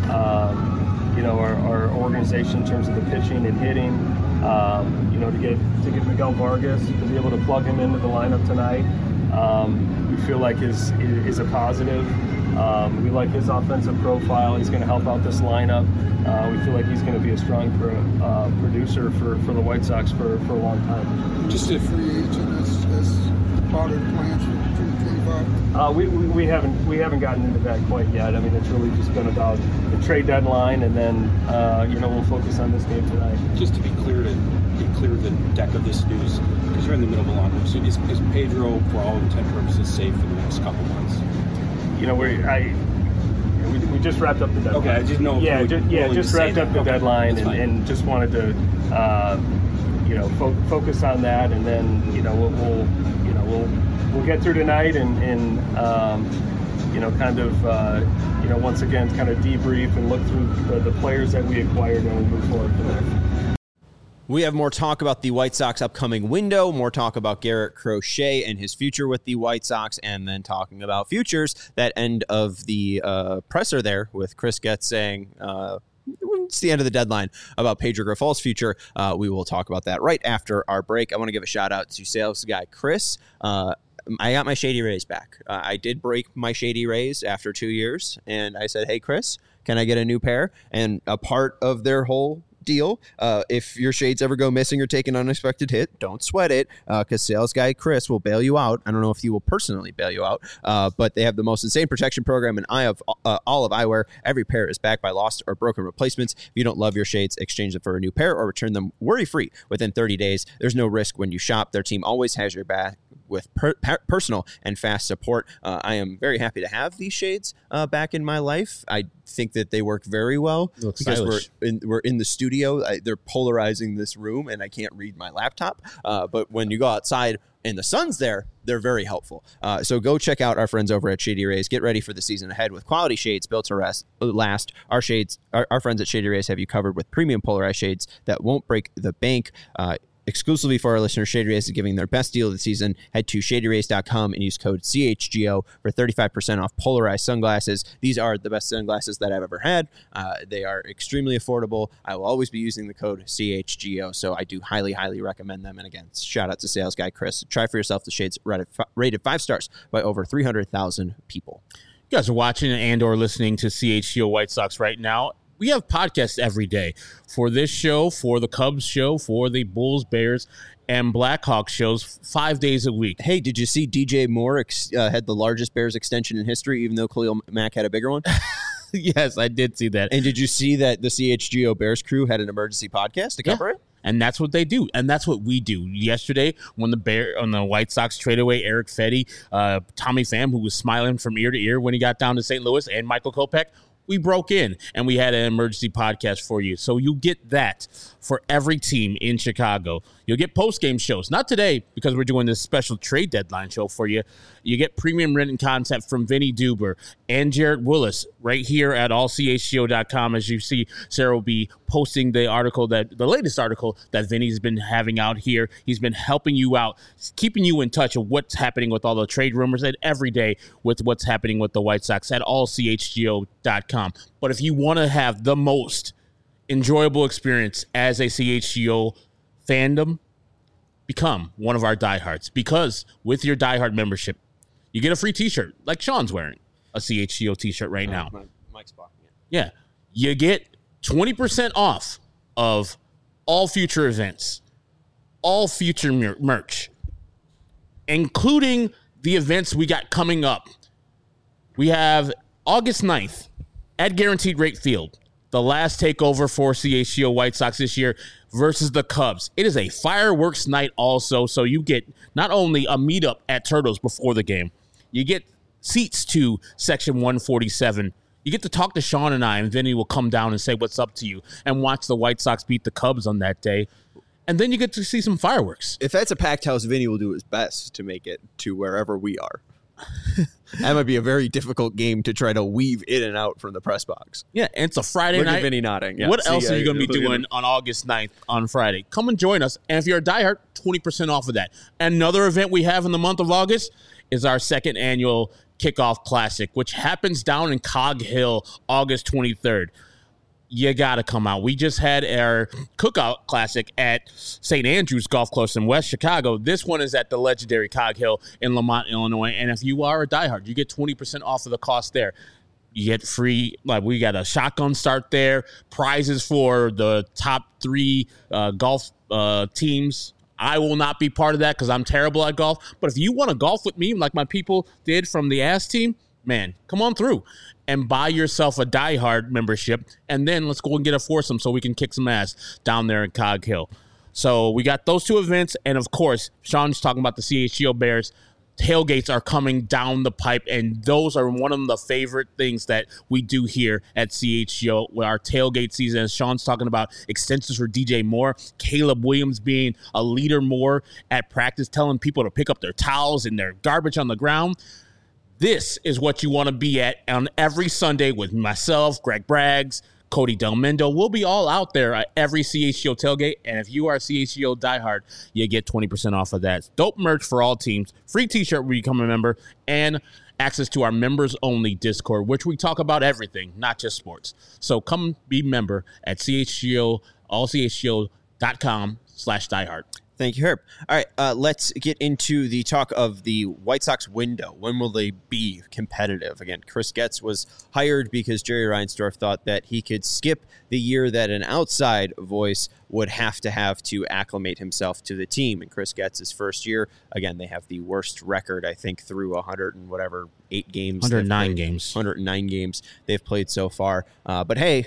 our organization in terms of the pitching and hitting. To get Miguel Vargas, to be able to plug him into the lineup tonight, we feel like is a positive. We like his offensive profile. He's going to help out this lineup. We feel like he's going to be a strong producer for the White Sox for a long time. Just a free agent as part of the plans for 2025? We haven't gotten into that quite yet. I mean, it's really just been about the trade deadline, and then we'll focus on this game tonight. Just to be clear, the deck of this news, because you're in the middle of a long one. So is Pedro, for all intent and purposes, safe for the next couple months? We just wrapped up the deadline. Okay, I didn't know. Just wrapped up the deadline, and just wanted to focus on that, and then we'll get through tonight and once again kind of debrief and look through the players that we acquired, and we'll move forward from there. We have more talk about the White Sox upcoming window, more talk about Garrett Crochet and his future with the White Sox, and then talking about futures, that end of the presser there with Chris Getz saying it's the end of the deadline about Pedro Grifol's future. We will talk about that right after our break. I want to give a shout out to sales guy Chris. I got my Shady Rays back. I did break my Shady Rays after 2 years, and I said, hey, Chris, can I get a new pair? And a part of their whole deal, if your shades ever go missing or take an unexpected hit, don't sweat it, because sales guy Chris will bail you out. I don't know if he will personally bail you out, but they have the most insane protection program, and I have all of eyewear. Every pair is backed by lost or broken replacements. If you don't love your shades, exchange them for a new pair or return them worry-free within 30 days. There's no risk when you shop. Their team always has your back with personal and fast support. I am very happy to have these shades back in my life. I think that they work very well because we're in the studio. They're polarizing this room, and I can't read my laptop. But when you go outside and the sun's there, they're very helpful. So go check out our friends over at Shady Rays. Get ready for the season ahead with quality shades built to last. Our friends at Shady Rays have you covered with premium polarized shades that won't break the bank. Exclusively for our listeners, Shady Rays is giving their best deal of the season. Head to shadyrays.com and use code CHGO for 35% off polarized sunglasses. These are the best sunglasses that I've ever had. They are extremely affordable. I will always be using the code CHGO, so I do highly, highly recommend them. And again, shout out to sales guy Chris. Try for yourself the shades rated 5 stars by over 300,000 people. You guys are watching and or listening to CHGO White Sox right now. We have podcasts every day for this show, for the Cubs show, for the Bulls, Bears, and Blackhawks shows 5 days a week. Hey, did you see DJ Moore had the largest Bears extension in history, even though Khalil Mack had a bigger one? Yes, I did see that. And did you see that the CHGO Bears crew had an emergency podcast to cover it? And that's what they do, and that's what we do. Yesterday, when the White Sox traded away Eric Fetty, Tommy Pham, who was smiling from ear to ear when he got down to St. Louis, and Michael Kopech, we broke in and we had an emergency podcast for you. So you get that for every team in Chicago. You'll get post-game shows. Not today, because we're doing this special trade deadline show for you. You get premium written content from Vinny Duber and Jarrett Willis right here at allchgo.com. As you see, Sarah will be posting the latest article that Vinny's been having out here. He's been helping you out, keeping you in touch of what's happening with all the trade rumors and every day with what's happening with the White Sox at allchgo.com. But if you want to have the most enjoyable experience as a CHGO fandom, become one of our diehards, because with your diehard membership, you get a free t-shirt like Sean's wearing a CHGO t-shirt right now. Mike's blocking it. Yeah. You get 20% off of all future events, all future merch, including the events we got coming up. We have August 9th at Guaranteed Rate Field, the last takeover for CHGO White Sox this year versus the Cubs. It is a fireworks night also, so you get not only a meetup at Turtles before the game, you get seats to Section 147. You get to talk to Sean and I, and Vinny will come down and say what's up to you and watch the White Sox beat the Cubs on that day. And then you get to see some fireworks. If that's a packed house, Vinny will do his best to make it to wherever we are. That might be a very difficult game to try to weave in and out from the press box. Yeah, and it's a Friday Look night. at Vinny nodding. Yeah. What else are you going to be doing on August 9th on Friday? Come and join us. And if you're a diehard, 20% off of that. Another event we have in the month of August is our second annual Kickoff Classic, which happens down in Cog Hill, August 23rd. You got to come out. We just had our Cookout Classic at St. Andrews Golf Course in West Chicago. This one is at the legendary Cog Hill in Lamont, Illinois. And if you are a diehard, you get 20% off of the cost there. You get free, like we got a shotgun start there, prizes for the top 3 golf teams. I will not be part of that because I'm terrible at golf. But if you want to golf with me like my people did from the Ass team, man, come on through and buy yourself a diehard membership, and then let's go and get a foursome so we can kick some ass down there in Cog Hill. So we got those 2 events, and of course, Sean's talking about the CHGO Bears. Tailgates are coming down the pipe, and those are one of the favorite things that we do here at CHGO with our tailgate season. As Sean's talking about extensions for DJ Moore, Caleb Williams being a leader more at practice, telling people to pick up their towels and their garbage on the ground. This is what you want to be at on every Sunday with myself, Greg Braggs, Cody Delmendo. We'll be all out there at every CHGO tailgate. And if you are a CHGO diehard, you get 20% off of that. Dope merch for all teams, free t-shirt when you become a member, and access to our members-only Discord, which we talk about everything, not just sports. So come be a member at CHGO, allchgo.com/diehard. Thank you, Herb. All right, let's get into the talk of the White Sox window. When will they be competitive? Again, Chris Getz was hired because Jerry Reinsdorf thought that he could skip the year that an outside voice would have to acclimate himself to the team. And Chris Getz's first year, again, they have the worst record, I think, through 8 games. 109 games. 109 games they've played so far. But hey,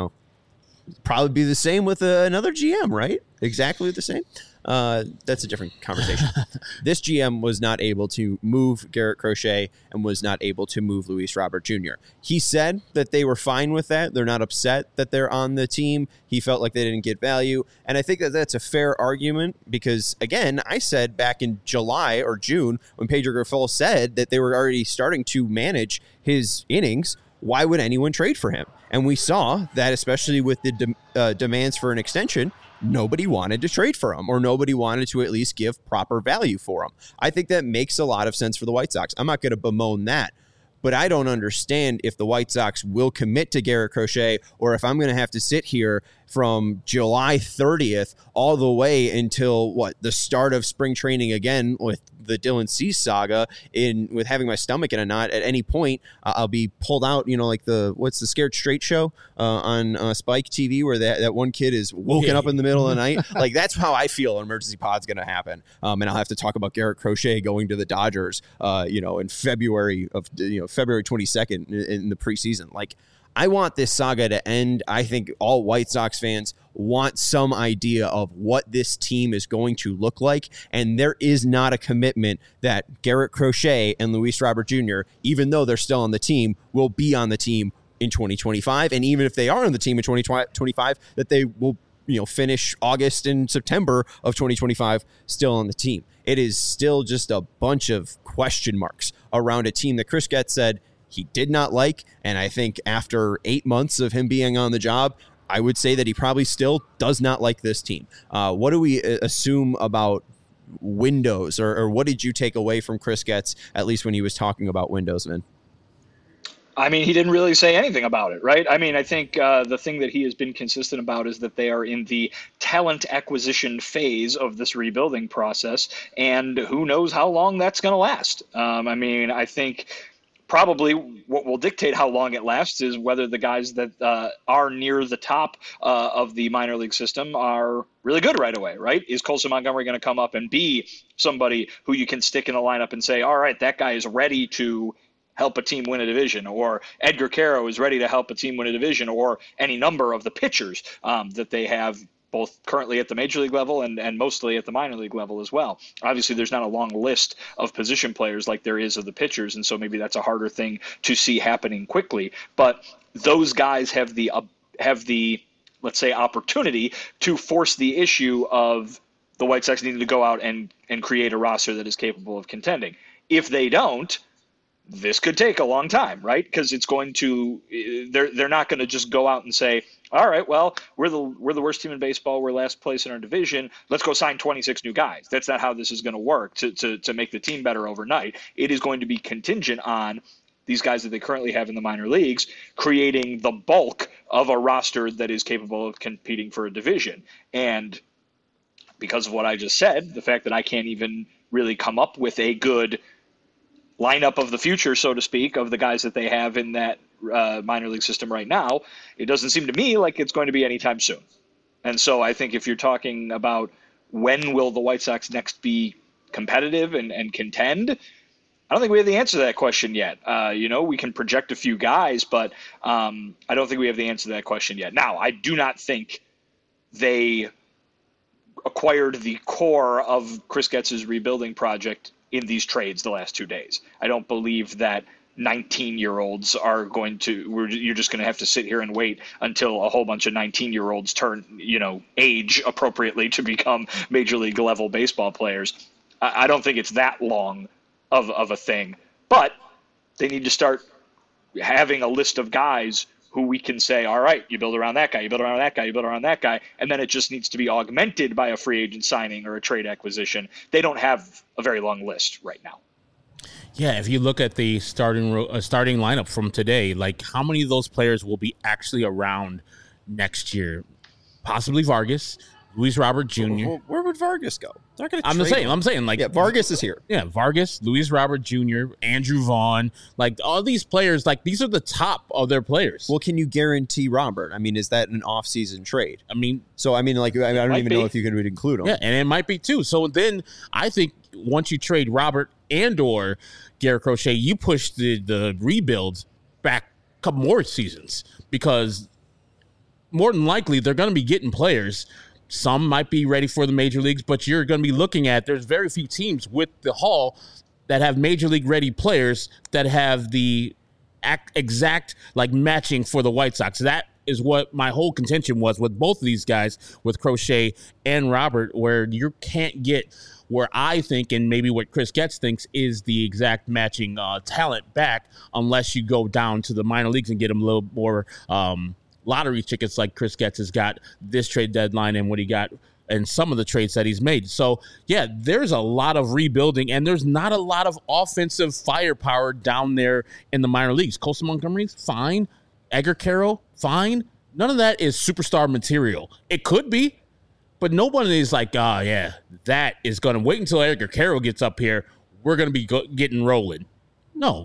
probably be the same with another GM, right? Exactly the same. That's a different conversation. This GM was not able to move Garrett Crochet and was not able to move Luis Robert Jr. He said that they were fine with that. They're not upset that they're on the team. He felt like they didn't get value. And I think that that's a fair argument because, again, I said back in July or June when Pedro Grifol said that they were already starting to manage his innings, why would anyone trade for him? And we saw that, especially with the demands for an extension, nobody wanted to trade for him, or nobody wanted to at least give proper value for him. I think that makes a lot of sense for the White Sox. I'm not going to bemoan that, but I don't understand if the White Sox will commit to Garrett Crochet, or if I'm going to have to sit here from July 30th all the way until the start of spring training again with the Dylan Cease saga, with having my stomach in a knot. At any point, I'll be pulled out, like what's the Scared Straight show on Spike TV where that one kid is woken up in the middle of the night. Like, that's how I feel an emergency pod's going to happen. And I'll have to talk about Garrett Crochet going to the Dodgers, in February 22nd in the preseason. Like, I want this saga to end. I think all White Sox fans want some idea of what this team is going to look like, and there is not a commitment that Garrett Crochet and Luis Robert Jr., even though they're still on the team, will be on the team in 2025, and even if they are on the team in 2025, that they will finish August and September of 2025 still on the team. It is still just a bunch of question marks around a team that Chris Getz said he did not like. And I think after 8 months of him being on the job, I would say that he probably still does not like this team. What do we assume about windows, or what did you take away from Chris Getz, at least when he was talking about windows, Vin? I mean, he didn't really say anything about it, right? I mean, I think the thing that he has been consistent about is that they are in the talent acquisition phase of this rebuilding process, and who knows how long that's going to last. I mean, I think probably what will dictate how long it lasts is whether the guys that are near the top of the minor league system are really good right away, right? Is Colson Montgomery going to come up and be somebody who you can stick in the lineup and say, all right, that guy is ready to help a team win a division, or Edgar Quero is ready to help a team win a division, or any number of the pitchers that they have both currently at the major league level and mostly at the minor league level as well. Obviously, there's not a long list of position players like there is of the pitchers, and so maybe that's a harder thing to see happening quickly. But those guys have the let's say, opportunity to force the issue of the White Sox needing to go out and create a roster that is capable of contending. If they don't, this could take a long time, right? Because it's going to they're not going to just go out and say, all right, well, we're the worst team in baseball, we're last place in our division, let's go sign 26 new guys. That's not how this is going to work to make the team better overnight. It is going to be contingent on these guys that they currently have in the minor leagues creating the bulk of a roster that is capable of competing for a division. And because of what I just said, the fact that I can't even really come up with a good lineup of the future, so to speak, of the guys that they have in that minor league system right now, it doesn't seem to me like it's going to be anytime soon. And so I think if you're talking about when will the White Sox next be competitive and contend, I don't think we have the answer to that question yet. We can project a few guys, but I don't think we have the answer to that question yet. Now, I do not think they acquired the core of Chris Getz's rebuilding project in these trades the last 2 days. I don't believe that 19-year-olds are going to, you're just going to have to sit here and wait until a whole bunch of 19-year-olds turn, age appropriately to become major league level baseball players. I don't think it's that long of a thing, but they need to start having a list of guys who we can say, all right, you build around that guy, you build around that guy, you build around that guy, and then it just needs to be augmented by a free agent signing or a trade acquisition. They don't have a very long list right now. Yeah, if you look at the starting lineup from today, like how many of those players will be actually around next year? Possibly Vargas, Luis Robert Jr. Well, where would Vargas go? They're going to. I'm saying, like, yeah, Vargas is here. Yeah, Vargas, Luis Robert Jr., Andrew Vaughn, like all these players, like these are the top of their players. Well, can you guarantee Robert? I mean, is that an off-season trade? I mean, I don't even know if you can include him. Yeah, and it might be too. So then I think once you trade Robert and/or Garrett Crochet, you push the rebuild back a couple more seasons because more than likely they're going to be getting players. Some might be ready for the major leagues, but you're going to be looking at there's very few teams with the haul that have major league ready players that have the exact like matching for the White Sox. That is what my whole contention was with both of these guys, with Crochet and Robert, where you can't get where I think, and maybe what Chris Getz thinks, is the exact matching talent back unless you go down to the minor leagues and get them a little more lottery tickets like Chris Getz has got this trade deadline and what he got and some of the trades that he's made. So, yeah, there's a lot of rebuilding, and there's not a lot of offensive firepower down there in the minor leagues. Colson Montgomery's fine. Edgar Quero, fine. None of that is superstar material. It could be, but nobody is like, that is going to wait until Edgar Quero gets up here. We're going to be getting rolling. No.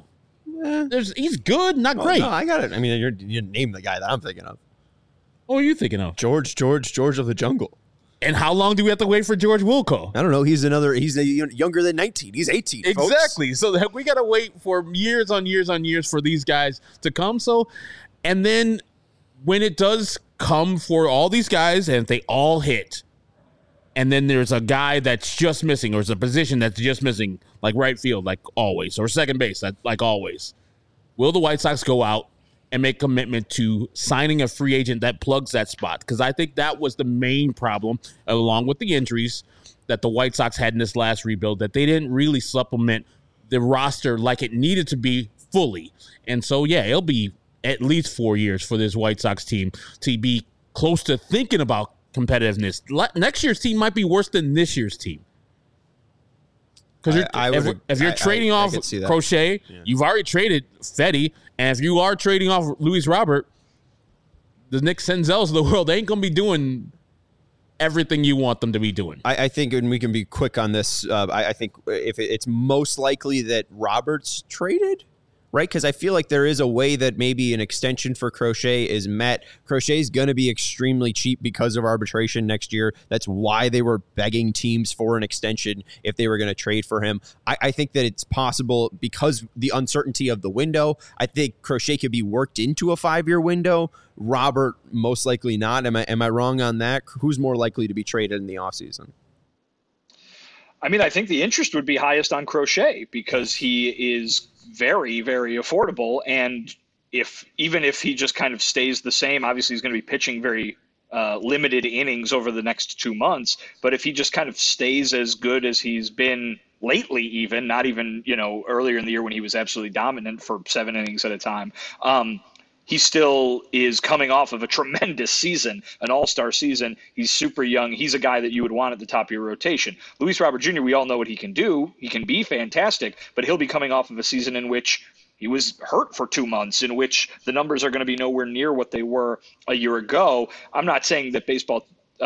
He's good, not great. No, I got it. I mean, you name the guy that I'm thinking of. What are you thinking of? George of the Jungle. And how long do we have to wait for George Wilco? I don't know. He's younger than 19. He's 18. Exactly. Folks. So we got to wait for years on years on years for these guys to come. So, and then when it does come for all these guys and they all hit, and then there's a guy that's just missing, or there's a position that's just missing, like right field, like always, or second base, like always. Will the White Sox go out and make commitment to signing a free agent that plugs that spot. Because I think that was the main problem, along with the injuries that the White Sox had in this last rebuild, that they didn't really supplement the roster like it needed to be fully. And so, yeah, it'll be at least 4 years for this White Sox team to be close to thinking about competitiveness. Next year's team might be worse than this year's team. Because if you're trading off Crochet, you've already traded Fedde, and if you are trading off Luis Robert, the Nick Senzels of the world ain't going to be doing everything you want them to be doing. I think, and we can be quick on this, I think if it's most likely that Robert's traded, right? Because I feel like there is a way that maybe an extension for Crochet is met. Crochet's going to be extremely cheap because of arbitration next year. That's why they were begging teams for an extension if they were going to trade for him. I think that it's possible because the uncertainty of the window. I think Crochet could be worked into a 5-year window. Robert, most likely not. Am I wrong on that? Who's more likely to be traded in the offseason? I mean, I think the interest would be highest on Crochet because he is very, very affordable. And even if he just kind of stays the same, obviously he's going to be pitching very limited innings over the next 2 months. But if he just kind of stays as good as he's been lately, even not even, earlier in the year when he was absolutely dominant for 7 innings at a time, he still is coming off of a tremendous season, an all-star season. He's super young. He's a guy that you would want at the top of your rotation. Luis Robert Jr., we all know what he can do. He can be fantastic, but he'll be coming off of a season in which he was hurt for 2 months, in which the numbers are going to be nowhere near what they were a year ago. I'm not saying that baseball,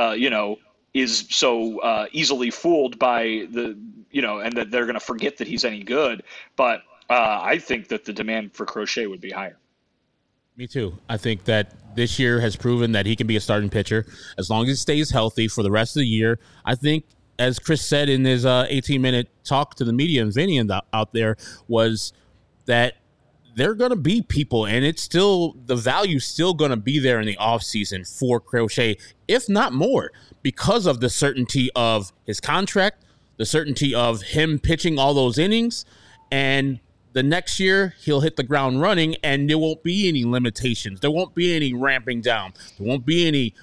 is so easily fooled by and that they're going to forget that he's any good. But I think that the demand for Crochet would be higher. Me too. I think that this year has proven that he can be a starting pitcher as long as he stays healthy for the rest of the year. I think, as Chris said in his 18-minute talk to the media and Vinny out there, was that they're going to be people, and it's still the value's still going to be there in the offseason for Crochet, if not more, because of the certainty of his contract, the certainty of him pitching all those innings, and the next year, he'll hit the ground running, and there won't be any limitations. There won't be any ramping down. There won't be any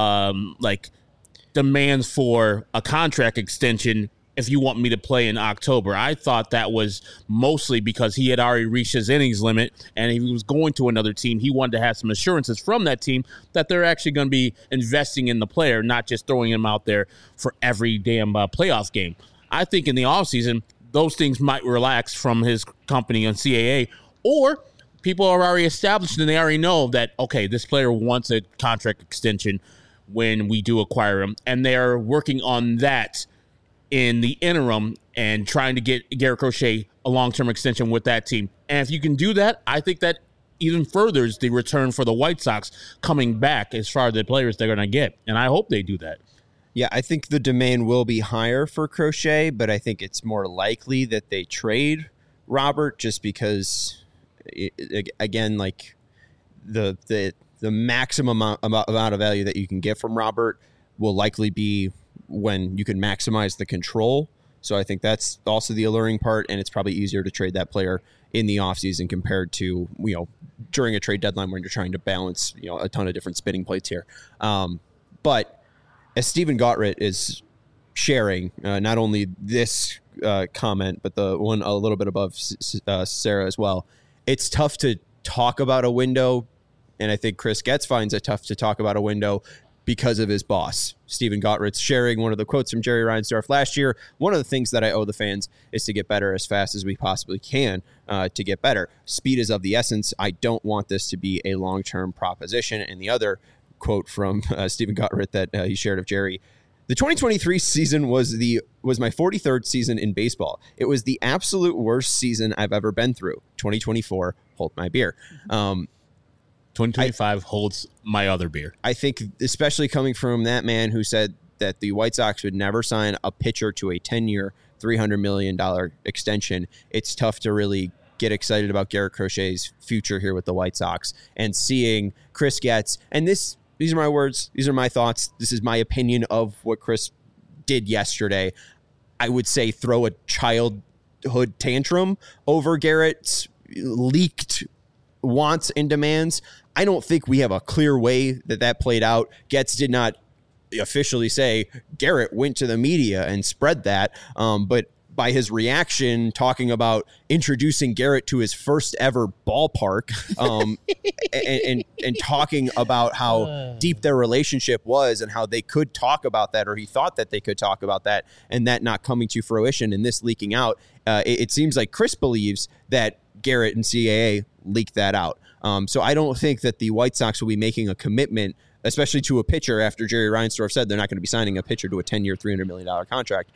demands for a contract extension if you want me to play in October. I thought that was mostly because he had already reached his innings limit, and if he was going to another team, he wanted to have some assurances from that team that they're actually going to be investing in the player, not just throwing him out there for every damn playoff game. I think in the offseason, those things might relax from his company on CAA, or people are already established and they already know that, okay, this player wants a contract extension when we do acquire him, and they're working on that in the interim and trying to get Garrett Crochet a long-term extension with that team. And if you can do that, I think that even furthers the return for the White Sox coming back as far as the players they're going to get, and I hope they do that. Yeah, I think the demand will be higher for Crochet, but I think it's more likely that they trade Robert just because, again, like the maximum amount of value that you can get from Robert will likely be when you can maximize the control. So I think that's also the alluring part, and it's probably easier to trade that player in the offseason compared to, during a trade deadline when you're trying to balance, a ton of different spinning plates here. But as Stephen Gottritt is sharing, not only this comment, but the one a little bit above Sarah as well, it's tough to talk about a window, and I think Chris Getz finds it tough to talk about a window because of his boss. Stephen Gottritt's sharing one of the quotes from Jerry Reinsdorf last year. One of the things that I owe the fans is to get better as fast as we possibly can to get better. Speed is of the essence. I don't want this to be a long-term proposition. And the other quote from Stephen Gottritt that he shared of Jerry: the 2023 season was my 43rd season in baseball. It was the absolute worst season I've ever been through. 2024, hold my beer. 2025 holds my other beer. I think, especially coming from that man who said that the White Sox would never sign a pitcher to a 10-year, $300 million extension, it's tough to really get excited about Garrett Crochet's future here with the White Sox. And seeing Chris Getz, and these are my words, these are my thoughts, this is my opinion of what Chris did yesterday. I would say throw a childhood tantrum over Garrett's leaked wants and demands. I don't think we have a clear way that played out. Getz did not officially say Garrett went to the media and spread that, but by his reaction, talking about introducing Garrett to his first ever ballpark, and talking about how deep their relationship was and how they could talk about that, or he thought that they could talk about that, and that not coming to fruition and this leaking out. It seems like Chris believes that Garrett and CAA leaked that out. So I don't think that the White Sox will be making a commitment, especially to a pitcher, after Jerry Reinsdorf said they're not going to be signing a pitcher to a 10-year, $300 million contract.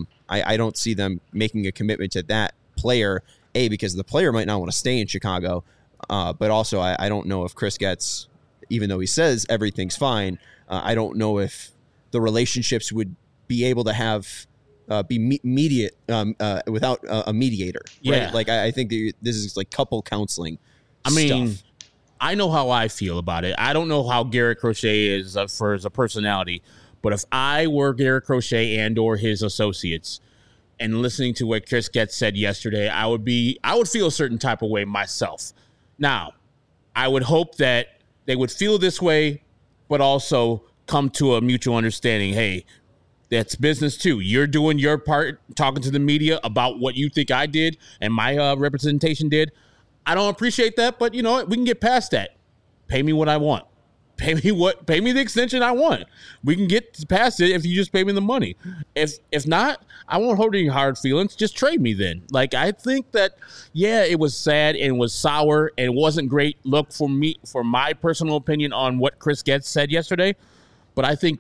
I don't see them making a commitment to that player, because the player might not want to stay in Chicago, but also I don't know if Chris Getz, even though he says everything's fine, I don't know if the relationships would be able to have be mediate without a mediator. Right? Yeah. Like I think this is like couple counseling. I mean, stuff. I know how I feel about it. I don't know how Garrett Crochet is as a personality, but if I were Garrett Crochet and or his associates, and listening to what Chris Getz said yesterday, I would feel a certain type of way myself. Now, I would hope that they would feel this way, but also come to a mutual understanding. Hey, that's business too. You're doing your part, talking to the media about what you think I did and my representation did. I don't appreciate that, but you know what? We can get past that. Pay me what I want. Pay me the extension I want. We can get past it if you just pay me the money. If not, I won't hold any hard feelings. Just trade me then. Like, I think that, yeah, it was sad and was sour and it wasn't great look for me, for my personal opinion on what Chris Getz said yesterday. But I think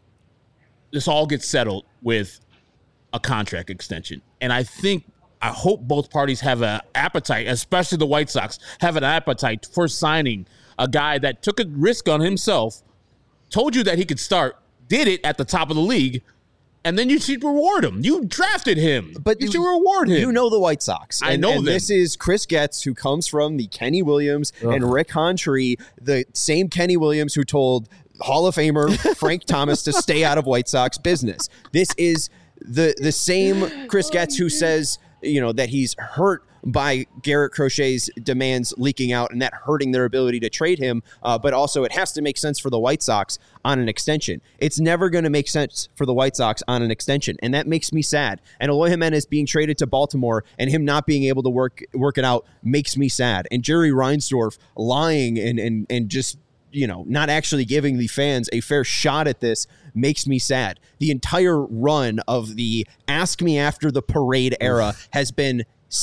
this all gets settled with a contract extension. And I hope both parties have an appetite, especially the White Sox, have an appetite for signing a guy that took a risk on himself, told you that he could start, did it at the top of the league, and then you should reward him. You drafted him, but you should reward him. You know the White Sox. I know them. This is Chris Getz, who comes from the Kenny Williams and Rick Hontree, the same Kenny Williams who told Hall of Famer Frank Thomas to stay out of White Sox business. This is the same Chris Getz who says, you know, that he's hurt by Garrett Crochet's demands leaking out and that hurting their ability to trade him. But also it has to make sense for the White Sox on an extension. It's never going to make sense for the White Sox on an extension. And that makes me sad. And Eloy Jimenez being traded to Baltimore and him not being able to work it out makes me sad. And Jerry Reinsdorf lying and just, you know, not actually giving the fans a fair shot at this makes me sad. The entire run of the Ask Me After the Parade era has been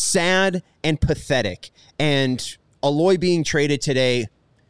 sad and pathetic. And Eloy being traded today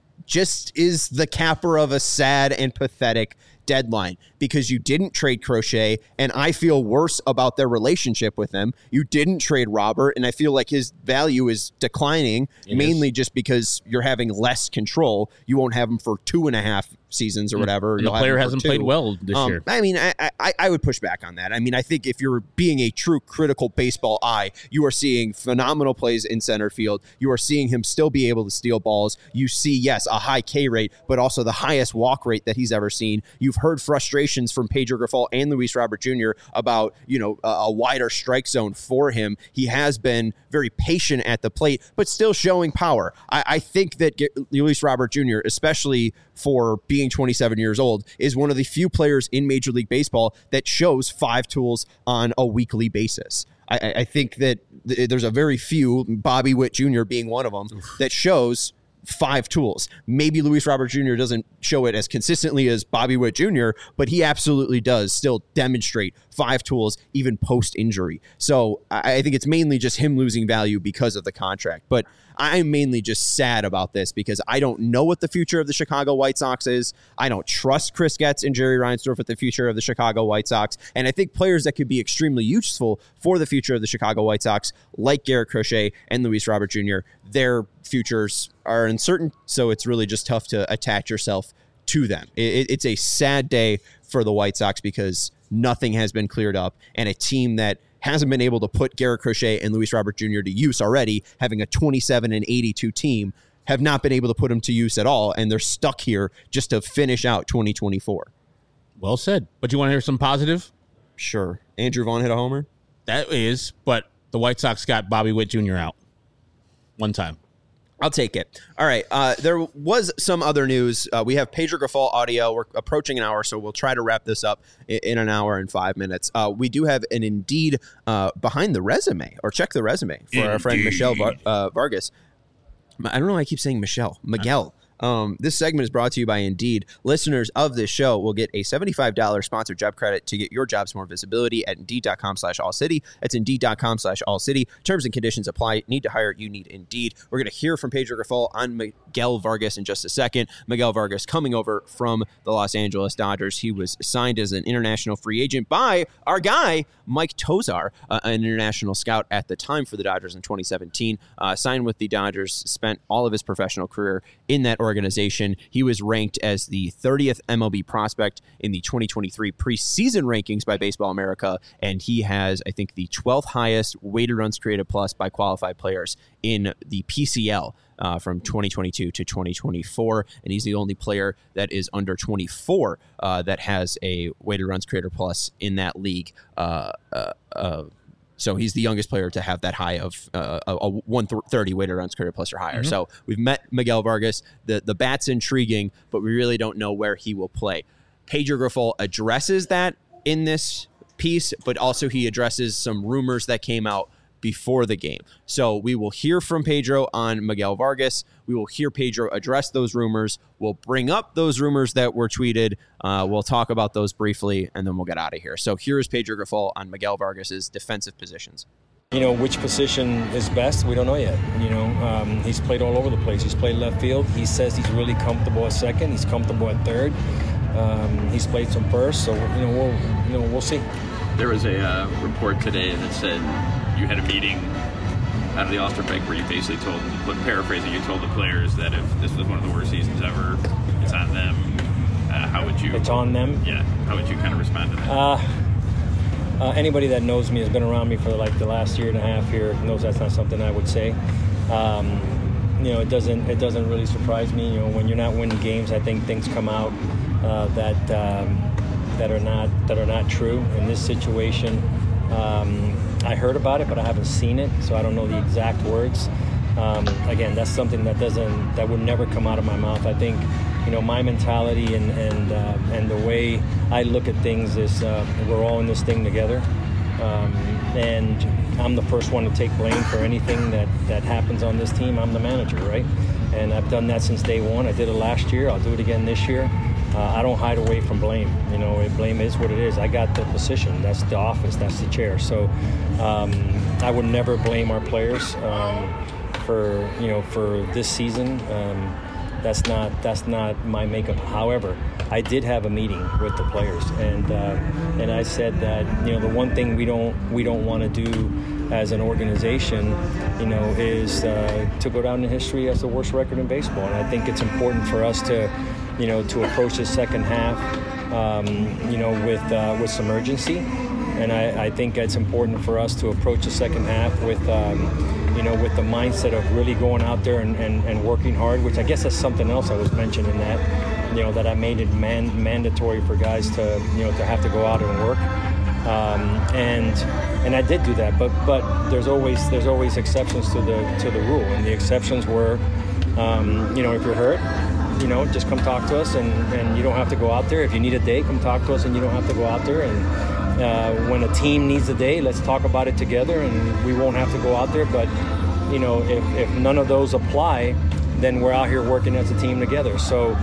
just is the capper of a sad and pathetic deadline, because you didn't trade Crochet, and I feel worse about their relationship with them. You didn't trade Robert, and I feel like his value is declining, mainly just because you're having less control. You won't have him for 2.5 seasons or whatever. And the player hasn't played well this year. I mean, I would push back on that. I mean, I think if you're being a true critical baseball eye, you are seeing phenomenal plays in center field. You are seeing him still be able to steal balls. You see, yes, a high K rate, but also the highest walk rate that he's ever seen. You've heard frustrations from Pedro Grifol and Luis Robert Jr. about, you know, a wider strike zone for him. He has been very patient at the plate, but still showing power. I think that Luis Robert Jr., especially for being 27 years old, is one of the few players in Major League Baseball that shows 5 tools on a weekly basis. I think that there's a very few, Bobby Witt Jr. being one of them, that shows 5 tools. Maybe Luis Robert Jr. doesn't show it as consistently as Bobby Witt Jr., but he absolutely does still demonstrate 5 tools even post-injury. So I think it's mainly just him losing value because of the contract. But I'm mainly just sad about this because I don't know what the future of the Chicago White Sox is. I don't trust Chris Getz and Jerry Reinsdorf with the future of the Chicago White Sox. And I think players that could be extremely useful for the future of the Chicago White Sox, like Garrett Crochet and Luis Robert Jr., their futures are uncertain. So it's really just tough to attach yourself to them. It's a sad day for the White Sox because nothing has been cleared up, and a team that hasn't been able to put Garrett Crochet and Luis Robert Jr. to use already, having a 27-82 team, have not been able to put them to use at all, and they're stuck here just to finish out 2024. Well said. But you want to hear some positive? Sure. Andrew Vaughn hit a homer? That is, but the White Sox got Bobby Witt Jr. out one time. I'll take it. All right. There was some other news. We have Pedro Grifol audio. We're approaching an hour, so we'll try to wrap this up in an hour and 5 minutes. We do have an Indeed behind the resume, or check the resume, for our friend Michelle Vargas. I don't know why I keep saying Miguel. This segment is brought to you by Indeed. Listeners of this show will get a $75 sponsored job credit to get your jobs more visibility at Indeed.com/AllCity. That's Indeed.com/AllCity. Terms and conditions apply. Need to hire? You need Indeed. We're going to hear from Pedro Grifol on Miguel Vargas in just a second. Miguel Vargas coming over from the Los Angeles Dodgers. He was signed as an international free agent by our guy, Mike Tosar, an international scout at the time for the Dodgers in 2017. Signed with the Dodgers, spent all of his professional career in that organization. He was ranked as the 30th MLB prospect in the 2023 preseason rankings by Baseball America, and he has, I think, the 12th highest weighted runs created plus by qualified players in the PCL from 2022 to 2024, and he's the only player that is under 24 that has a weighted runs created plus in that league. So he's the youngest player to have that high of a 130 weighted runs created plus or higher. Mm-hmm. So we've met Miguel Vargas. The bat's intriguing, but we really don't know where he will play. Pedro Grifol addresses that in this piece, but also he addresses some rumors that came out before the game. So we will hear from Pedro on Miguel Vargas. We will hear Pedro address those rumors. We'll bring up those rumors that were tweeted. We'll talk about those briefly, and then we'll get out of here. So here's Pedro Grifol on Miguel Vargas's defensive positions. Which position is best, we don't know yet. He's played all over the place. He's played left field. He says he's really comfortable at second. He's comfortable at third. He's played some first, so we'll see. There was a report today that said you had a meeting out of the All-Star break where you basically paraphrasing, you told the players that if this was one of the worst seasons ever, it's on them. How would you? It's on them. Yeah. How would you kind of respond to that? Anybody that knows me, has been around me for like the last year and a half here, knows that's not something I would say. It doesn't really surprise me. When you're not winning games, I think things come out that are not true. In this situation, I heard about it, but I haven't seen it, so I don't know the exact words. Again, that's something that would never come out of my mouth. I think, my mentality and the way I look at things is we're all in this thing together, and I'm the first one to take blame for anything that happens on this team. I'm the manager, right? And I've done that since day one. I did it last year. I'll do it again this year. I don't hide away from blame. Blame is what it is. I got the position. That's the office. That's the chair. So I would never blame our players for this season. That's not my makeup. However, I did have a meeting with the players, and I said that the one thing we don't want to do as an organization, is to go down in history as the worst record in baseball. And I think it's important for us to approach the second half, with some urgency. And I think it's important for us to approach the second half with the mindset of really going out there and working hard, which I guess that's something else I was mentioning that I made it mandatory for guys to have to go out and work. And I did do that, but there's always exceptions to the rule, and the exceptions were, if you're hurt, just come talk to us, and you don't have to go out there. If you need a day, come talk to us, and you don't have to go out there. And when a team needs a day, let's talk about it together, and we won't have to go out there. But if none of those apply, then we're out here working as a team together. So.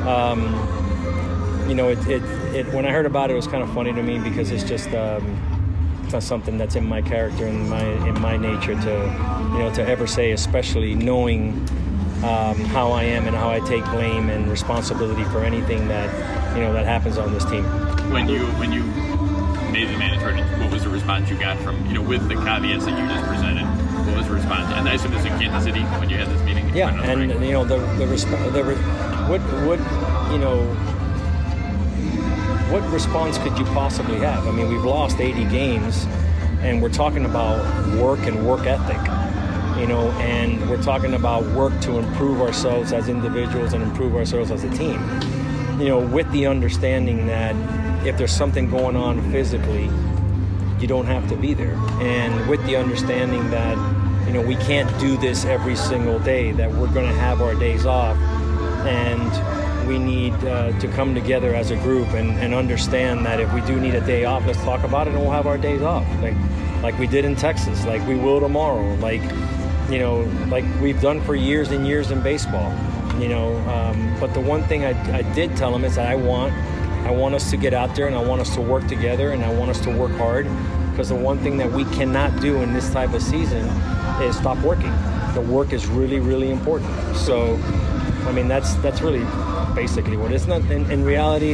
When I heard about it, it was kind of funny to me because it's just it's not something that's in my character and in my nature to ever say, especially knowing how I am and how I take blame and responsibility for anything that that happens on this team. When you made the mandatory, what was the response you got from with the caveats that you just presented? What was the response? And I assume this in Kansas City when you had this meeting. Yeah, and what response could you possibly have? I mean, we've lost 80 games, and we're talking about work and work ethic, and we're talking about work to improve ourselves as individuals and improve ourselves as a team, with the understanding that if there's something going on physically, you don't have to be there, and with the understanding that we can't do this every single day, that we're going to have our days off, and we need to come together as a group and understand that if we do need a day off, let's talk about it and we'll have our days off, like we did in Texas, like we will tomorrow, like we've done for years and years in baseball, but the one thing I did tell them is that I want us to get out there, and I want us to work together, and I want us to work hard, because the one thing that we cannot do in this type of season is stop working. The work is really, really important. So, I mean, that's really basically what it is. In reality,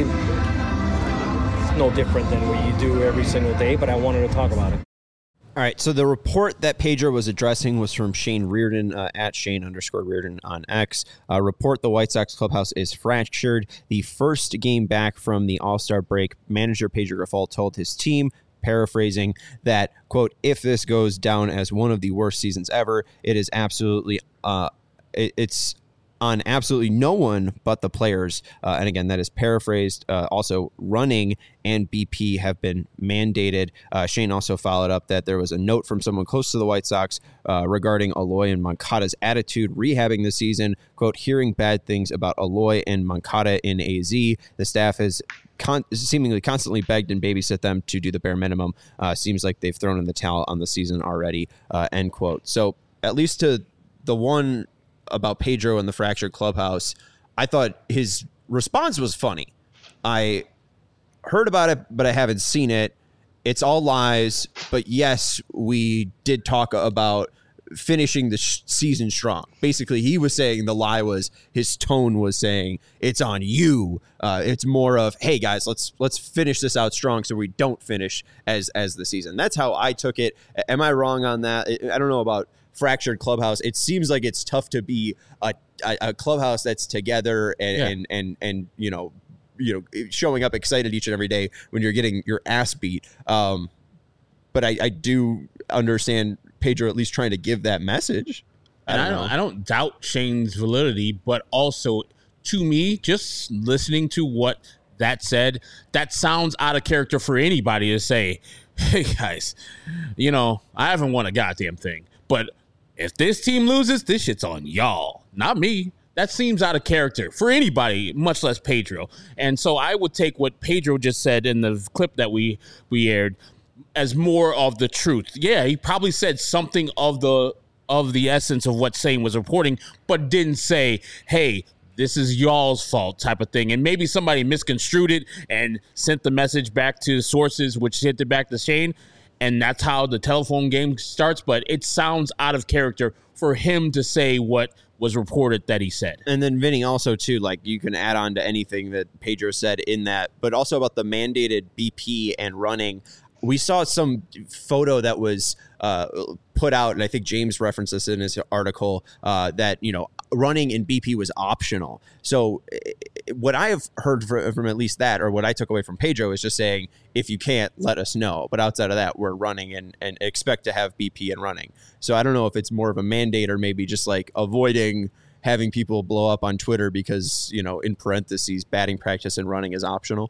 it's no different than what you do every single day, but I wanted to talk about it. All right, so the report that Pedro was addressing was from Shane Reardon, at Shane_Reardon on X. Report: the White Sox clubhouse is fractured. The first game back from the All-Star break, manager Pedro Grifol told his team, paraphrasing, that, quote, if this goes down as one of the worst seasons ever, it is absolutely, it's on absolutely no one but the players. And again, that is paraphrased. Also, running and BP have been mandated. Shane also followed up that there was a note from someone close to the White Sox regarding Eloy and Moncada's attitude rehabbing this season. Quote, hearing bad things about Eloy and Moncada in AZ. The staff has seemingly constantly begged and babysit them to do the bare minimum. Seems like they've thrown in the towel on the season already, end quote. So at least to the one about Pedro and the fractured clubhouse, I thought his response was funny. I heard about it, but I haven't seen it. It's all lies. But yes, we did talk about finishing the season strong. Basically, he was saying the lie was, his tone was saying, it's on you. It's more of, hey guys, let's finish this out strong so we don't finish as the season. That's how I took it. Am I wrong on that? I don't know about fractured clubhouse. It seems like it's tough to be a clubhouse that's together and showing up excited each and every day when you're getting your ass beat. But I do understand Pedro at least trying to give that message. I don't doubt Shane's validity, but also to me, just listening to what that said, that sounds out of character for anybody to say, hey guys, I haven't won a goddamn thing, but if this team loses, this shit's on y'all, not me. That seems out of character for anybody, much less Pedro. And so I would take what Pedro just said in the clip that we aired as more of the truth. Yeah, he probably said something of the essence of what Shane was reporting, but didn't say, hey, this is y'all's fault type of thing. And maybe somebody misconstrued it and sent the message back to sources, which sent it back to Shane. And that's how the telephone game starts. But it sounds out of character for him to say what was reported that he said. And then Vinny also too, like, you can add on to anything that Pedro said in that, but also about the mandated BP and running. We saw some photo that was put out, and I think James referenced this in his article, that, running in BP was optional. So what I have heard from at least that, or what I took away from Pedro, is just saying, if you can't, let us know. But outside of that, we're running and expect to have BP and running. So I don't know if it's more of a mandate or maybe just like avoiding having people blow up on Twitter because, in parentheses, batting practice and running is optional.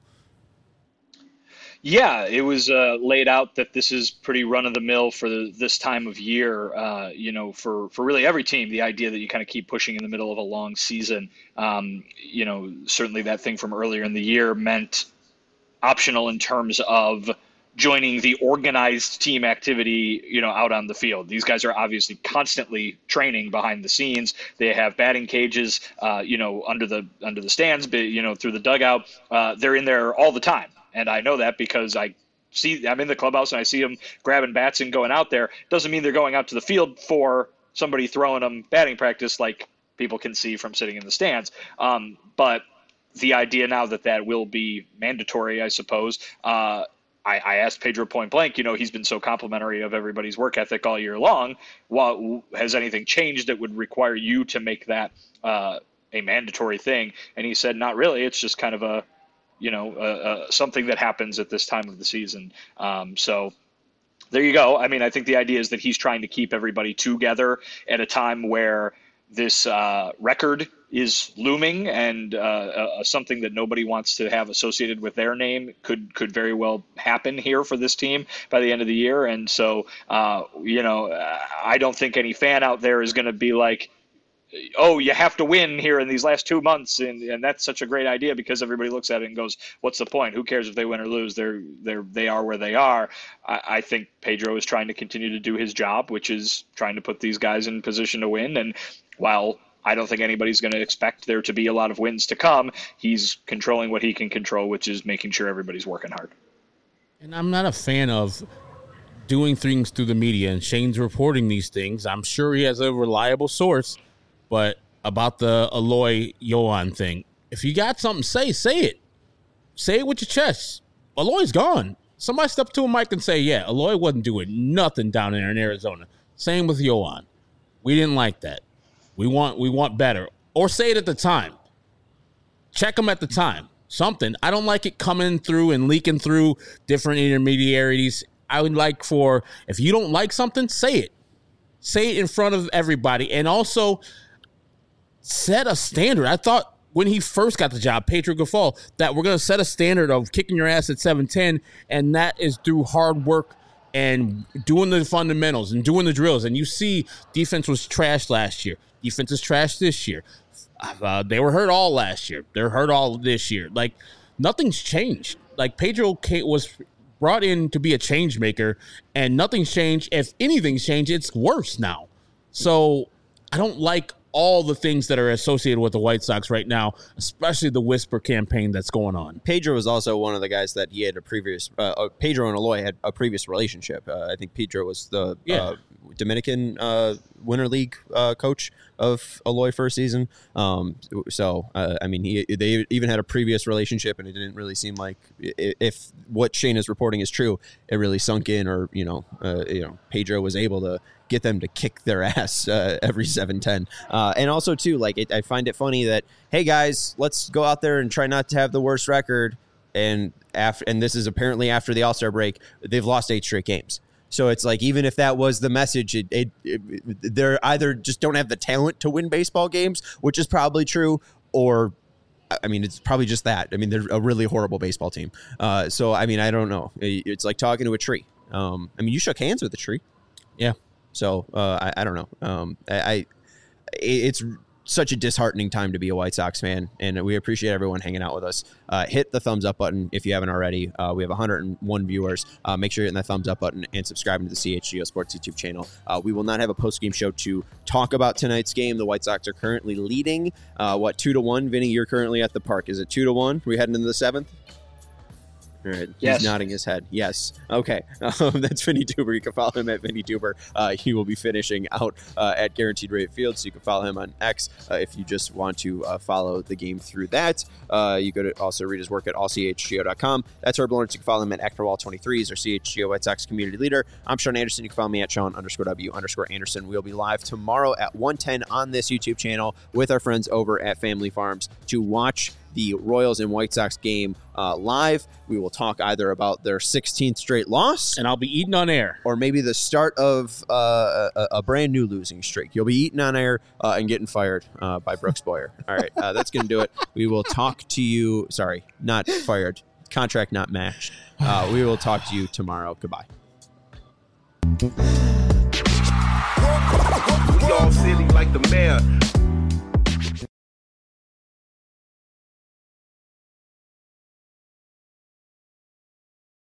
Yeah, it was laid out that this is pretty run-of-the-mill for this time of year, for really every team, the idea that you kind of keep pushing in the middle of a long season. Certainly that thing from earlier in the year meant optional in terms of joining the organized team activity, out on the field. These guys are obviously constantly training behind the scenes. They have batting cages, under the stands, through the dugout. They're in there all the time. And I know that because I'm in the clubhouse and I see them grabbing bats and going out there. Doesn't mean they're going out to the field for somebody throwing them batting practice like people can see from sitting in the stands. But the idea now that will be mandatory, I suppose. I asked Pedro point blank, he's been so complimentary of everybody's work ethic all year long. Has anything changed that would require you to make that a mandatory thing? And he said, not really. It's just kind of something that happens at this time of the season. So there you go. I mean, I think the idea is that he's trying to keep everybody together at a time where this record is looming, and something that nobody wants to have associated with their name could very well happen here for this team by the end of the year. And so, I don't think any fan out there is going to be like, oh, you have to win here in these last 2 months, and that's such a great idea, because everybody looks at it and goes, what's the point? Who cares if they win or lose? They are where they are. I think Pedro is trying to continue to do his job, which is trying to put these guys in position to win. And while I don't think anybody's going to expect there to be a lot of wins to come, he's controlling what he can control, which is making sure everybody's working hard. And I'm not a fan of doing things through the media, and Shane's reporting these things. I'm sure he has a reliable source. But about the Eloy Yohan thing, if you got something, say it. Say it with your chest. Eloy's gone. Somebody step to a mic and say, yeah, Eloy wasn't doing nothing down there in Arizona. Same with Yohan. We didn't like that. We want better. Or say it at the time. Check them at the time. Something. I don't like it coming through and leaking through different intermediaries. I would like for, if you don't like something, say it. Say it in front of everybody. And also set a standard. I thought when he first got the job, Pedro Grifol, that we're going to set a standard of kicking your ass at 7-10, and that is through hard work and doing the fundamentals and doing the drills. And you see defense was trash last year. Defense is trash this year. They were hurt all last year. They're hurt all this year. Like, nothing's changed. Like, Pedro was brought in to be a change maker, and nothing's changed. If anything's changed, it's worse now. So I don't like all the things that are associated with the White Sox right now, especially the whisper campaign that's going on. Pedro was also one of the guys that he had a previous Pedro and Eloy had a previous relationship. I think Pedro was the Dominican Winter League coach of Eloy first season. They even had a previous relationship, and it didn't really seem like, if what Shane is reporting is true, it really sunk in, or Pedro was able to get them to kick their ass every 7-10. And also, too, I find it funny that, hey, guys, let's go out there and try not to have the worst record. And this is apparently after the All-Star break, they've lost 8 straight games. So it's like, even if that was the message, they're either just don't have the talent to win baseball games, which is probably true, or, it's probably just that. They're a really horrible baseball team. I don't know. It's like talking to a tree. You shook hands with the tree. Yeah. So I don't know. It's such a disheartening time to be a White Sox fan, and we appreciate everyone hanging out with us. Hit the thumbs up button if you haven't already. We have 101 viewers. Make sure you're hitting that thumbs up button and subscribing to the CHGO Sports YouTube channel. We will not have a post-game show to talk about tonight's game. The White Sox are currently leading, 2-1. Vinny, you're currently at the park. Is it 2-1? We heading into the 7th? All right. Yes. He's nodding his head. Yes. Okay. That's Vinny Duber. You can follow him at Vinny Duber. He will be finishing out at Guaranteed Rate Field, so you can follow him on X if you just want to follow the game through that. You go to also read his work at allchgo.com. That's Herb Lawrence. You can follow him at ActorWall23. He's our CHGO White Sox community leader. I'm Sean Anderson. You can follow me at Sean_W_Anderson. We'll be live tomorrow at 1:10 on this YouTube channel with our friends over at Family Farms to watch the Royals and White Sox game live. We will talk either about their 16th straight loss, and I'll be eating on air, or maybe the start of a brand new losing streak. You'll be eating on air and getting fired by Brooks Boyer. All right, that's going to do it. We will talk to you. Sorry, not fired. Contract not matched. We will talk to you tomorrow. Goodbye. We all silly like the mayor.